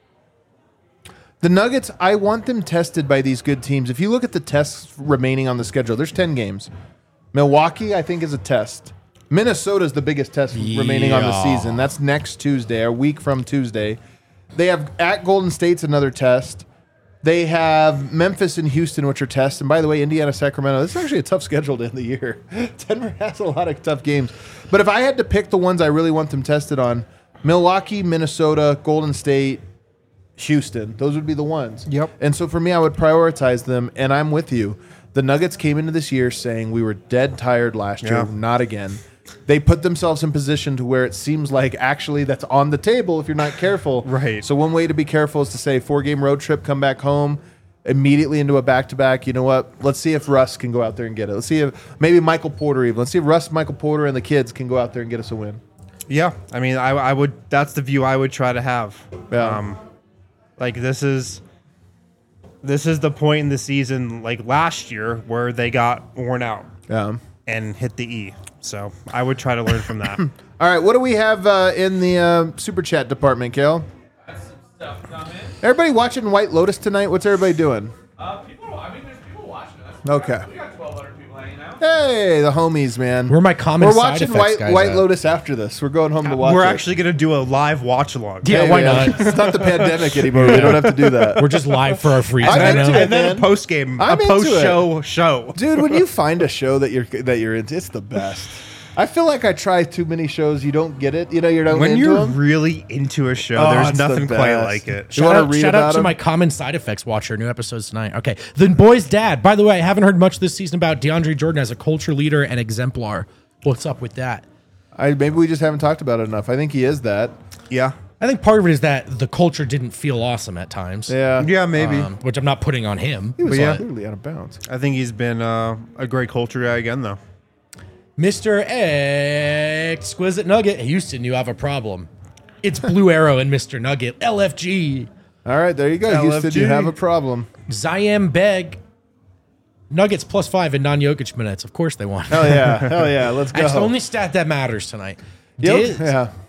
The Nuggets, I want them tested by these good teams. If you look at the tests remaining on the schedule, there's 10 games. Milwaukee, I think, is a test. Minnesota's the biggest test remaining on the season. That's next Tuesday, a week from Tuesday. They have at Golden State's another test. They have Memphis and Houston, which are tests. And by the way, Indiana, Sacramento, this is actually a tough schedule to end the year. Denver has a lot of tough games. But if I had to pick the ones I really want them tested on, Milwaukee, Minnesota, Golden State, Houston, those would be the ones. Yep. And so for me, I would prioritize them, and I'm with you. The Nuggets came into this year saying we were dead tired last year, not again. They put themselves in position to where it seems like actually that's on the table if you're not careful. Right. So one way to be careful is to say 4-game road trip, come back home, immediately into a back-to-back. You know what? Let's see if Russ can go out there and get it. Let's see if maybe Michael Porter even. Let's see if Russ, Michael Porter, and the kids can go out there and get us a win. Yeah, I mean, I would. That's the view I would try to have. Yeah. Like this is the point in the season, like last year, where they got worn out and hit the E. So I would try to learn from that. All right, what do we have in the super chat department, Kale? Got some stuff coming. Everybody watching White Lotus tonight? What's everybody doing? There's people watching us. Okay. We got 1,200 people hanging out. Hey, the homies, man. Where are my common We're side watching effects guys White at? Lotus after this. We're going home to watch We're it. actually going to do a live watch along. Yeah, why not? It's not the pandemic anymore. We don't have to do that. We're just live for our free I'm time into now. it. And then man. a post game, a I'm into post show. Dude, when you find a show that you're into, it's the best. I feel like I try too many shows. You don't get it. You know, you're not When into you're them. really into a show, Oh, there's it's the nothing quite best. like it. You wanna read Shout about out to him? my common side effects watcher. New episodes tonight. Okay. The boy's dad. By the way, I haven't heard much this season about DeAndre Jordan as a culture leader and exemplar. What's up with that? Maybe we just haven't talked about it enough. I think he is that. Yeah. I think part of it is that the culture didn't feel awesome at times. Yeah. Yeah, maybe. Which I'm not putting on him. He was yeah. clearly out of bounds. I think he's been a great culture guy again, though. Mr. Exquisite Nugget. Houston, you have a problem. It's Blue Arrow and Mr. Nugget. LFG. All right, there you go. Houston, you have a problem. Ziam Beg. Nuggets +5 in non-Jokic minutes. Of course they won. Hell yeah. Hell yeah. Let's go. That's the only stat that matters tonight. Yep. Yeah.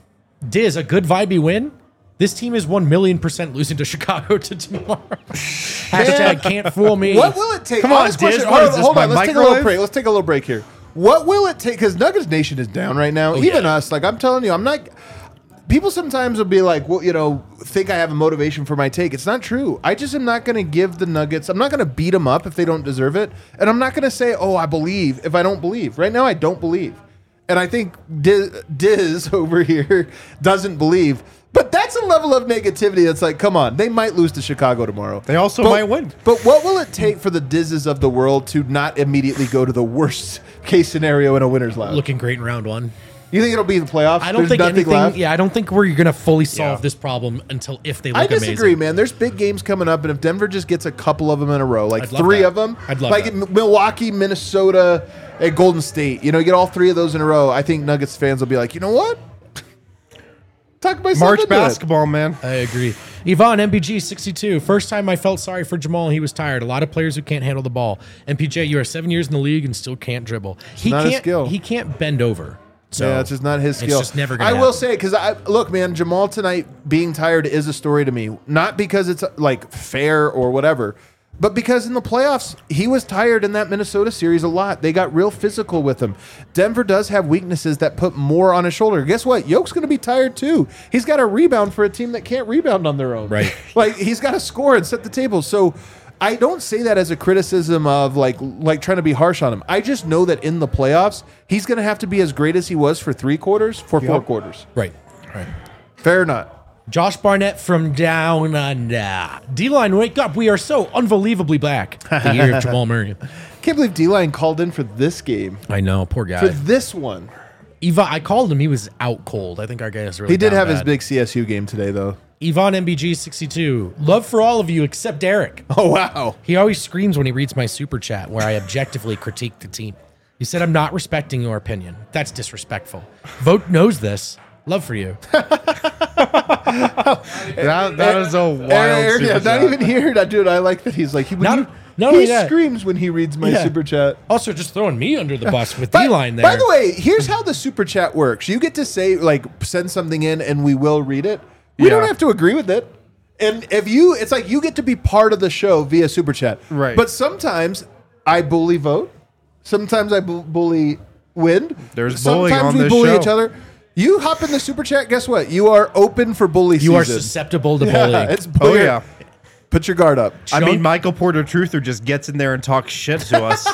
Diz, a good vibey win. This team is 1,000,000% losing to Chicago to tomorrow. Hashtag can't fool me. What will it take? Come on, Honest Diz, question. what is this, Hold on. my Let's take a little microwave? break. Let's take a little break here. What will it take? Because Nuggets Nation is down right now. Even yeah. us. Like I'm telling you, I'm not. People sometimes will be like, well, think I have a motivation for my take. It's not true. I just am not going to give the Nuggets. I'm not going to beat them up if they don't deserve it, and I'm not going to say, oh, I believe if I don't believe. Right now, I don't believe, and I think Diz over here doesn't believe. But that's a level of negativity that's like, come on, they might lose to Chicago tomorrow. They also might win. But what will it take for the Dizzes of the world to not immediately go to the worst case scenario in a winner's lounge? Looking great in round one. You think it'll be the playoffs? I don't There's think nothing anything. left? Yeah, I don't think we're going to fully solve Yeah. this problem until if they look I disagree, amazing. man. There's big games coming up, and if Denver just gets a couple of them in a row, like I'd love 3 that. of them, I'd love like that. Milwaukee, Minnesota, and Golden State, you get all 3 of those in a row, I think Nuggets fans will be like, you know what? Talk myself March into it. basketball, man. I agree. Yvonne, MPG 62. First time I felt sorry for Jamal. He was tired. A lot of players who can't handle the ball. MPJ, you are 7 years in the league and still can't dribble. He not his can't. skill. He can't bend over. So Yeah, it's just not his skill. It's just never going I to will say, because look, man, Jamal tonight being tired is a story to me. Not because it's like fair or whatever, but because in the playoffs, he was tired in that Minnesota series a lot. They got real physical with him. Denver does have weaknesses that put more on his shoulder. Guess what? Yoke's going to be tired too. He's got to rebound for a team that can't rebound on their own. Right. Like, he's got to score and set the table. So I don't say that as a criticism of like trying to be harsh on him. I just know that in the playoffs, he's going to have to be as great as he was for 3 quarters, for 4 quarters. right. Fair or not? Josh Barnett from down under. D-line, wake up. We are so unbelievably back. The year of Jamal Murray. Can't believe D-Line called in for this game. I know. Poor For guy. this one. I called him. He was out cold. I think our guy is really He did down have his bad. big CSU game today, though. Yvonne MBG 62. Love for all of you except Eric. Oh, wow. He always screams when he reads my super chat where I objectively critique the team. He said, I'm not respecting your opinion. That's disrespectful. Vote knows this. Love for you. That is a wild Eric, super not chat. even here. Dude, I like that he's like, he Not only that- screams when he reads my Yeah. super chat. Also, just throwing me under the bus with By- D-line there. By the way, here's how the super chat works. You get to say, like, send something in and we will read it. We Yeah. don't have to agree with it. And it's like you get to be part of the show via super chat. Right. But sometimes I bully vote. Sometimes I bully win. There's bullying Sometimes on we this bully show. each other. You hop in the super chat, guess what? You are open for bully season. you are susceptible to Yeah, bullying. it's Oh, yeah. Put your guard up. I mean, Michael Porter Truther just gets in there and talks shit to us.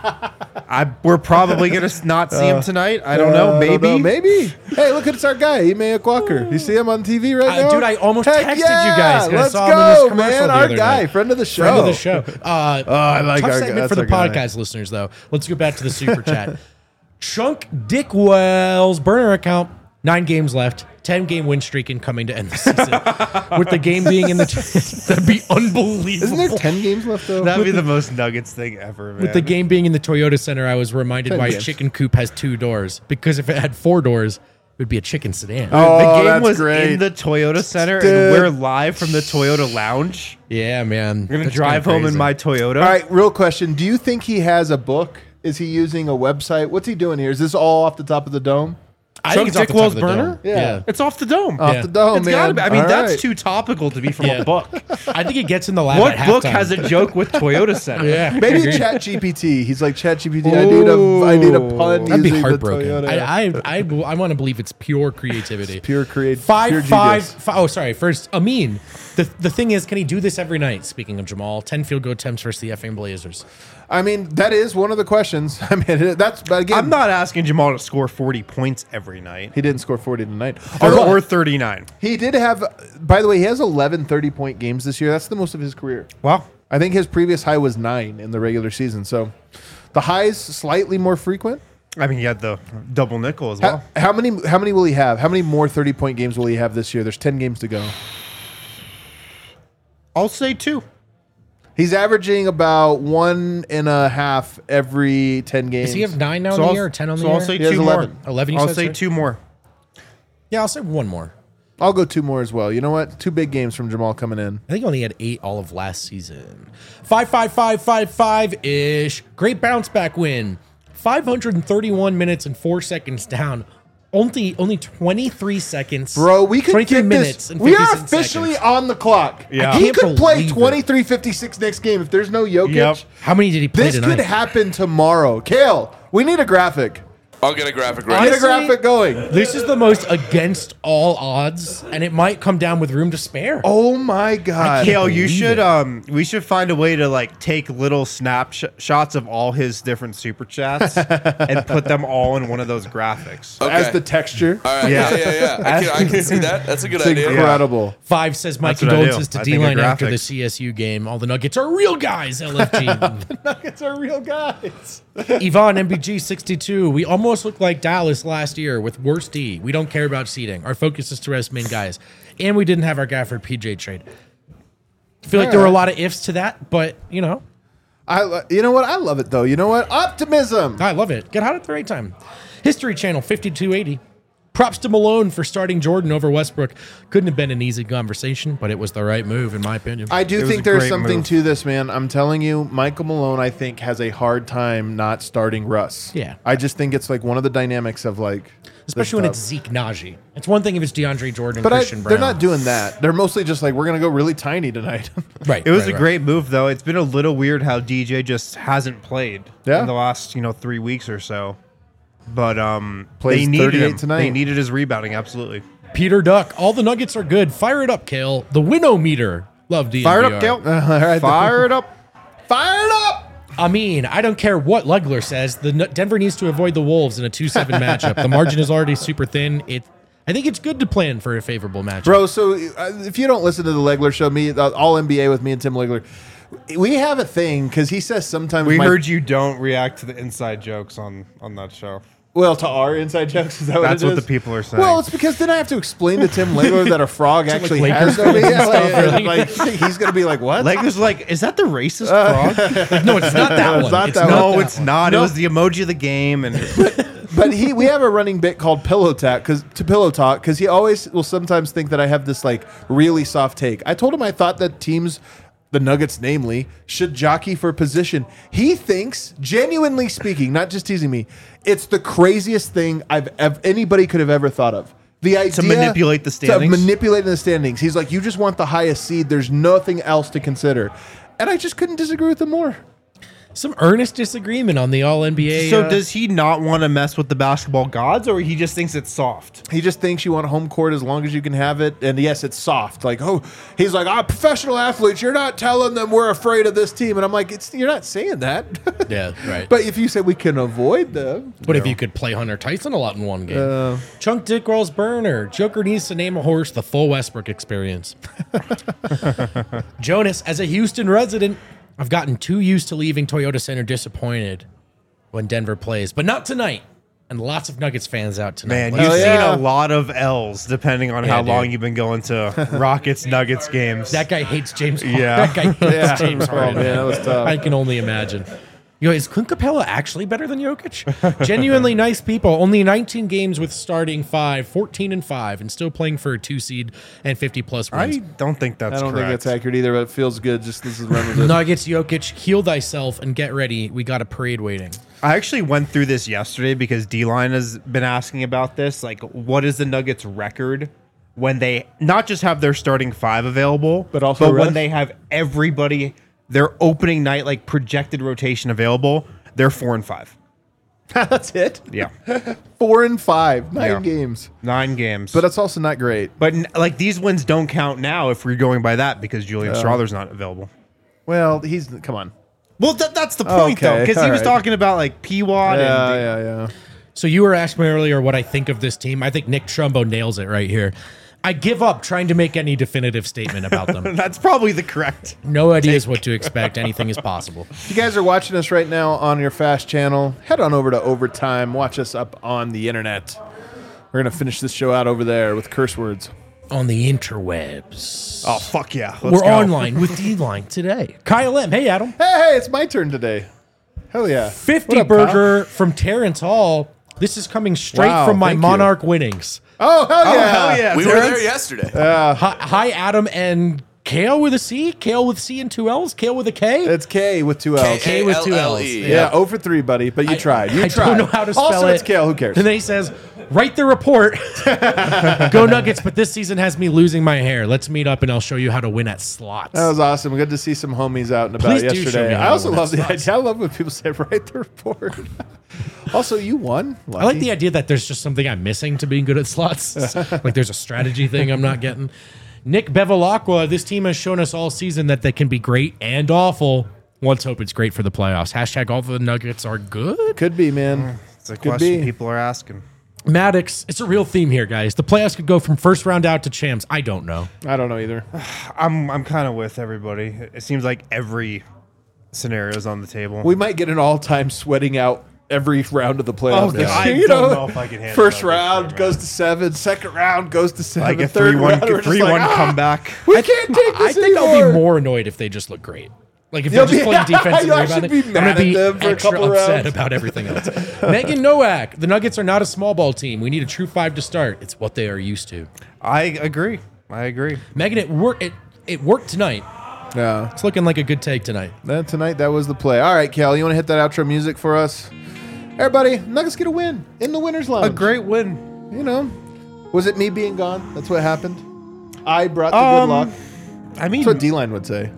We're probably going to not see him tonight. I don't know. I Maybe. don't know, maybe. Hey, look, it's our guy, Ime Walker. You see him on TV right now? Dude, I almost Heck texted yeah, you guys 'cause I Let's saw him in this go, commercial man. the Our other guy, night. friend of the show. Friend of the show. I like tough our segment guy. for the That's our guy. podcast listeners, though. Let's go back to the super chat. Chunk Dickwell's burner account. 9 games left. 10-game win streak incoming to end the season. With the game being in the that'd be unbelievable. Isn't there 10 games left, though? That'd be the most Nuggets thing ever, man. With the game being in the Toyota Center, I was reminded 10 why games. Chicken Coop has 2 doors. Because if it had 4 doors, it would be a chicken sedan. Oh, The game that's was great. in the Toyota Center, Dude. and we're live from the Toyota Lounge. Yeah, man. I'm gonna That's drive kinda home in crazy. my Toyota. All right, real question. Do you think he has a book? Is he using a website? What's he doing here? Is this all off the top of the dome? I think it's Chuck off the top of Dickwell's the burner? dome. Yeah. It's off the dome. Off Yeah. the dome, It's man. gotta be. I mean, All that's right. too topical to be from Yeah. a book. I think it gets in the lab What at book halftime. has a joke with Toyota Center? Yeah. Maybe Agreed. Chat GPT. He's like Chat GPT. I need a pun. That'd be using the heartbroken. Toyota. I want to believe it's pure creativity. Pure create. Five, pure five, genius. fi- Oh, sorry. First, Amin. The thing is, can he do this every night? Speaking of Jamal, 10 field goal attempts versus the effing Blazers. I mean, that is one of the questions. I mean, that's, but again, I'm not asking Jamal to score 40 points every night. he didn't score 40 tonight. Or 39. He did have, by the way, he has 11 30-point games this year. That's the most of his career. Wow. I think his previous high was 9 in the regular season. So the highs slightly more frequent. I mean, you had the double nickel as well. How many will he have? How many more 30-point games will he have this year? There's 10 games to go. I'll say 2. He's averaging about 1.5 every 10 games. Does he have 9 now on the I'll- year or 10 on the so year? I'll say He has 2 more. 11. 11, you I'll said, say sorry? 2 more. Yeah, I'll say 1 more. I'll go 2 more as well. You know what? 2 big games from Jamal coming in. I think he only had 8 all of last season. 5-5-5-5-5-ish. Great bounce back win. 531 minutes and 4 seconds down. Only 23 seconds. Bro, we could 23 get minutes this. and We are 56 officially seconds. on the clock. Yeah. He can't could play believe it. 23-56 next game if there's no Jokic. Yep. How many did he play This tonight? could happen tomorrow. Kale, we need a graphic. I'll get a graphic Get ready. a graphic going. This is the most against all odds, and it might come down with room to spare. Oh my God. Kale, you believe should we should find a way to like take little shots of all his different super chats and put them all in one of those graphics. Okay. As the texture. All right. Yeah. Yeah. I can see that. That's a good It's idea. incredible. 5 says my That's what I do. condolences to I think of D-Line after the graphics. CSU game. All the Nuggets are real guys, LFG. Nuggets are real guys. Yvonne, MBG62. We almost looked like Dallas last year with worse D. We don't care about seeding. Our focus is to rest main guys. And we didn't have our Gafford PJ trade. I feel like there were a lot of ifs to that, but, you know, You know what? I love it though. You know what? Optimism. I love it. Get hot at the right time. History Channel 5280. Props to Malone for starting Jordan over Westbrook. Couldn't have been an easy conversation, but it was the right move, in my opinion. I do was think a there's great something move. to this, man. I'm telling you, Michael Malone, I think, has a hard time not starting Russ. Yeah. I just think it's like one of the dynamics of like, Especially when the it's stuff. Zeke Najee. It's one thing if it's DeAndre Jordan, But Christian Brown. they're not doing that. They're mostly just like, we're going to go really tiny tonight. Right. It was right, a right. great move though. It's been a little weird how DJ just hasn't played Yeah. in the last 3 weeks or so. But Plays they needed 38 him. tonight. They needed his rebounding absolutely. Peter Duck. All the Nuggets are good. Fire it up, Kale. The Winnow-meter. Love DNVR. Fire it up, Kale. All right. Fire it up. Fire it up. I mean, I don't care what Legler says. Denver needs to avoid the Wolves in a 2-7 matchup. The margin is already super thin. I think it's good to plan for a favorable matchup. Bro, so if you don't listen to the Legler show, all NBA with me and Tim Legler, we have a thing because he says sometimes We heard you don't react to the inside jokes on that show. Well, to our inside jokes, is that That's what it what is? the people are saying. Well, it's because then I have to explain to Tim Legler that a frog actually Lakers has no fans and yeah, stuff, really? like he's gonna be like, what? Legler's like, is that the racist frog? No, it's not that It's one. not It's that not one. No, that it's one. not. No. It was the emoji of the game, and But we have a running bit called Pillow Talk because he always will sometimes think that I have this like really soft take. I told him I thought that teams, the Nuggets namely, should jockey for position. He thinks, genuinely speaking, not just teasing me, it's the craziest thing anybody could have ever thought of. The idea manipulate the standings? To manipulate the standings. He's like, you just want the highest seed. There's nothing else to consider. And I just couldn't disagree with him more. Some earnest disagreement on the All-NBA. so does he not want to mess with the basketball gods, or he just thinks it's soft? He just thinks you want home court as long as you can have it. And yes, it's soft. Like, he's like, professional athletes, you're not telling them we're afraid of this team. And I'm like, you're not saying that. Yeah, right. But if you said we can avoid them. What if you could play Hunter Tyson a lot in one game? Chunk Dick Rolls Burner. Joker needs to name a horse the full Westbrook experience. Jonas, as a Houston resident, I've gotten too used to leaving Toyota Center disappointed when Denver plays, but not tonight. And lots of Nuggets fans out tonight. Man, Like, you've yeah. seen a lot of L's depending on how dude. long you've been going to Rockets Nuggets games. that guy hates James Harden. Yeah. That guy hates James Harden. man, that was tough. I can only imagine. Is Clint Capella actually better than Jokic? Genuinely nice people. Only 19 games with starting 5, 14-5, and still playing for a 2 seed and 50+ I wins. don't think that's I don't correct. think it's accurate either, but it feels good. Just this is run with it. Nuggets, Jokic, heal thyself and get ready. We got a parade waiting. I actually went through this yesterday because D-Line has been asking about this. Like, what is the Nuggets' record when they not just have their starting 5 available, But also rest? when they have everybody, their opening night, like projected rotation available, they're 4-5. That's it. Yeah. 4-5, 9 Yeah. games. 9 games. But that's also not great. But like these wins don't count now if we're going by that because Julian Strawther's not available. Well, come on. Well, that's the point though, Okay, because he was alright. talking about like P-Wad Yeah, and yeah. So you were asking me earlier what I think of this team. I think Nick Trumbo nails it right here. I give up trying to make any definitive statement about them. that's probably the correct. No ideas what to expect. Anything is possible. If you guys are watching us right now on your Fast channel, head on over to Overtime. Watch us up on the internet. We're going to finish this show out over there with curse words. On the interwebs. Oh fuck yeah! We're online with D-Line today. Kyle M. Hey, Adam. Hey, it's my turn today. Hell yeah. 50 What up, burger from Terrence Hall. This is coming straight Wow, from my thank you. Monarch winnings. Oh, hell yeah. hell yeah! We were Terrence. there yesterday. Hi, Adam and Kale with a C. Kale with C and 2 L's. Kale with a K. It's K with 2 L's. K with 2 L's. K-A-L-L-E. Yeah, 0 for 3, buddy, but you tried. You I tried. don't know how to spell also, it. it's Kale. Who cares? And then he says, Write the report. Go Nuggets, but this season has me losing my hair. Let's meet up and I'll show you how to win at slots. That was awesome. Good to see some homies out and about Please do show me yesterday. how I to also win love at the slots. idea. I love when people say, write the report. Also, you won. I like the idea that there's just something I'm missing to being good at slots. Like there's a strategy thing I'm not getting. Nick Bevilacqua, this team has shown us all season that they can be great and awful. Let's hope it's great for the playoffs. Hashtag all the Nuggets are good. Could be, man. It's a Could question be. people are asking. Maddox, it's a real theme here, guys. The playoffs could go from first round out to champs. I don't know. I don't know either. I'm kind of with everybody. It seems like every scenario is on the table. We might get an all-time sweating out every round of the playoffs. this I year, you don't know if I can handle First that round this year, goes to 7, second round goes to 7, like a third 3-1 round, we're just 3-1 like, comeback. We can't take this I think anymore. I'll be more annoyed if they just look great. Like if they're just playing defense and You'll actually rebounding, be mad at them for a extra couple upset rounds. about everything else. Megan Nowak, the Nuggets are not a small ball team. We need a true 5 to start. It's what they are used to. I agree. Megan, it worked tonight. Yeah. It's looking like a good take tonight. Then tonight, that was the play. All right, Cal, you want to hit that outro music for us? Everybody, Nuggets get a win in the winner's lounge. A great win. You know, was it me being gone? That's what happened. I brought the good luck. I mean, That's what D-Line would say.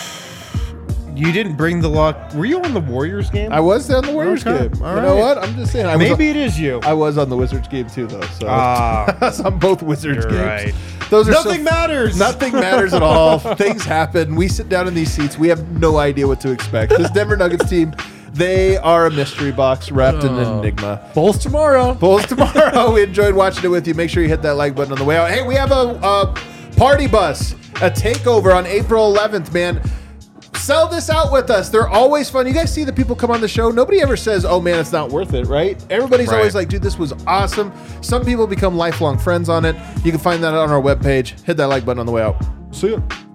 you didn't bring the luck. Were you on the Warriors game? I was on the Warriors Okay, game. all You know right. what? I'm just saying. Maybe it is you. I was on the Wizards game too, though. So Ah, on both Wizards you're games. right. Those are Nothing matters. Nothing matters at all. Things happen. We sit down in these seats. We have no idea what to expect. This Denver Nuggets team, they are a mystery box wrapped in an enigma. Bulls tomorrow. Bulls tomorrow. We enjoyed watching it with you. Make sure you hit that like button on the way out. Hey, we have a party bus, a takeover on April 11th, man. Sell this out with us. They're always fun. You guys see the people come on the show. Nobody ever says, oh, man, it's not worth it, right? Everybody's Right. always like, dude, this was awesome. Some people become lifelong friends on it. You can find that on our webpage. Hit that like button on the way out. See ya.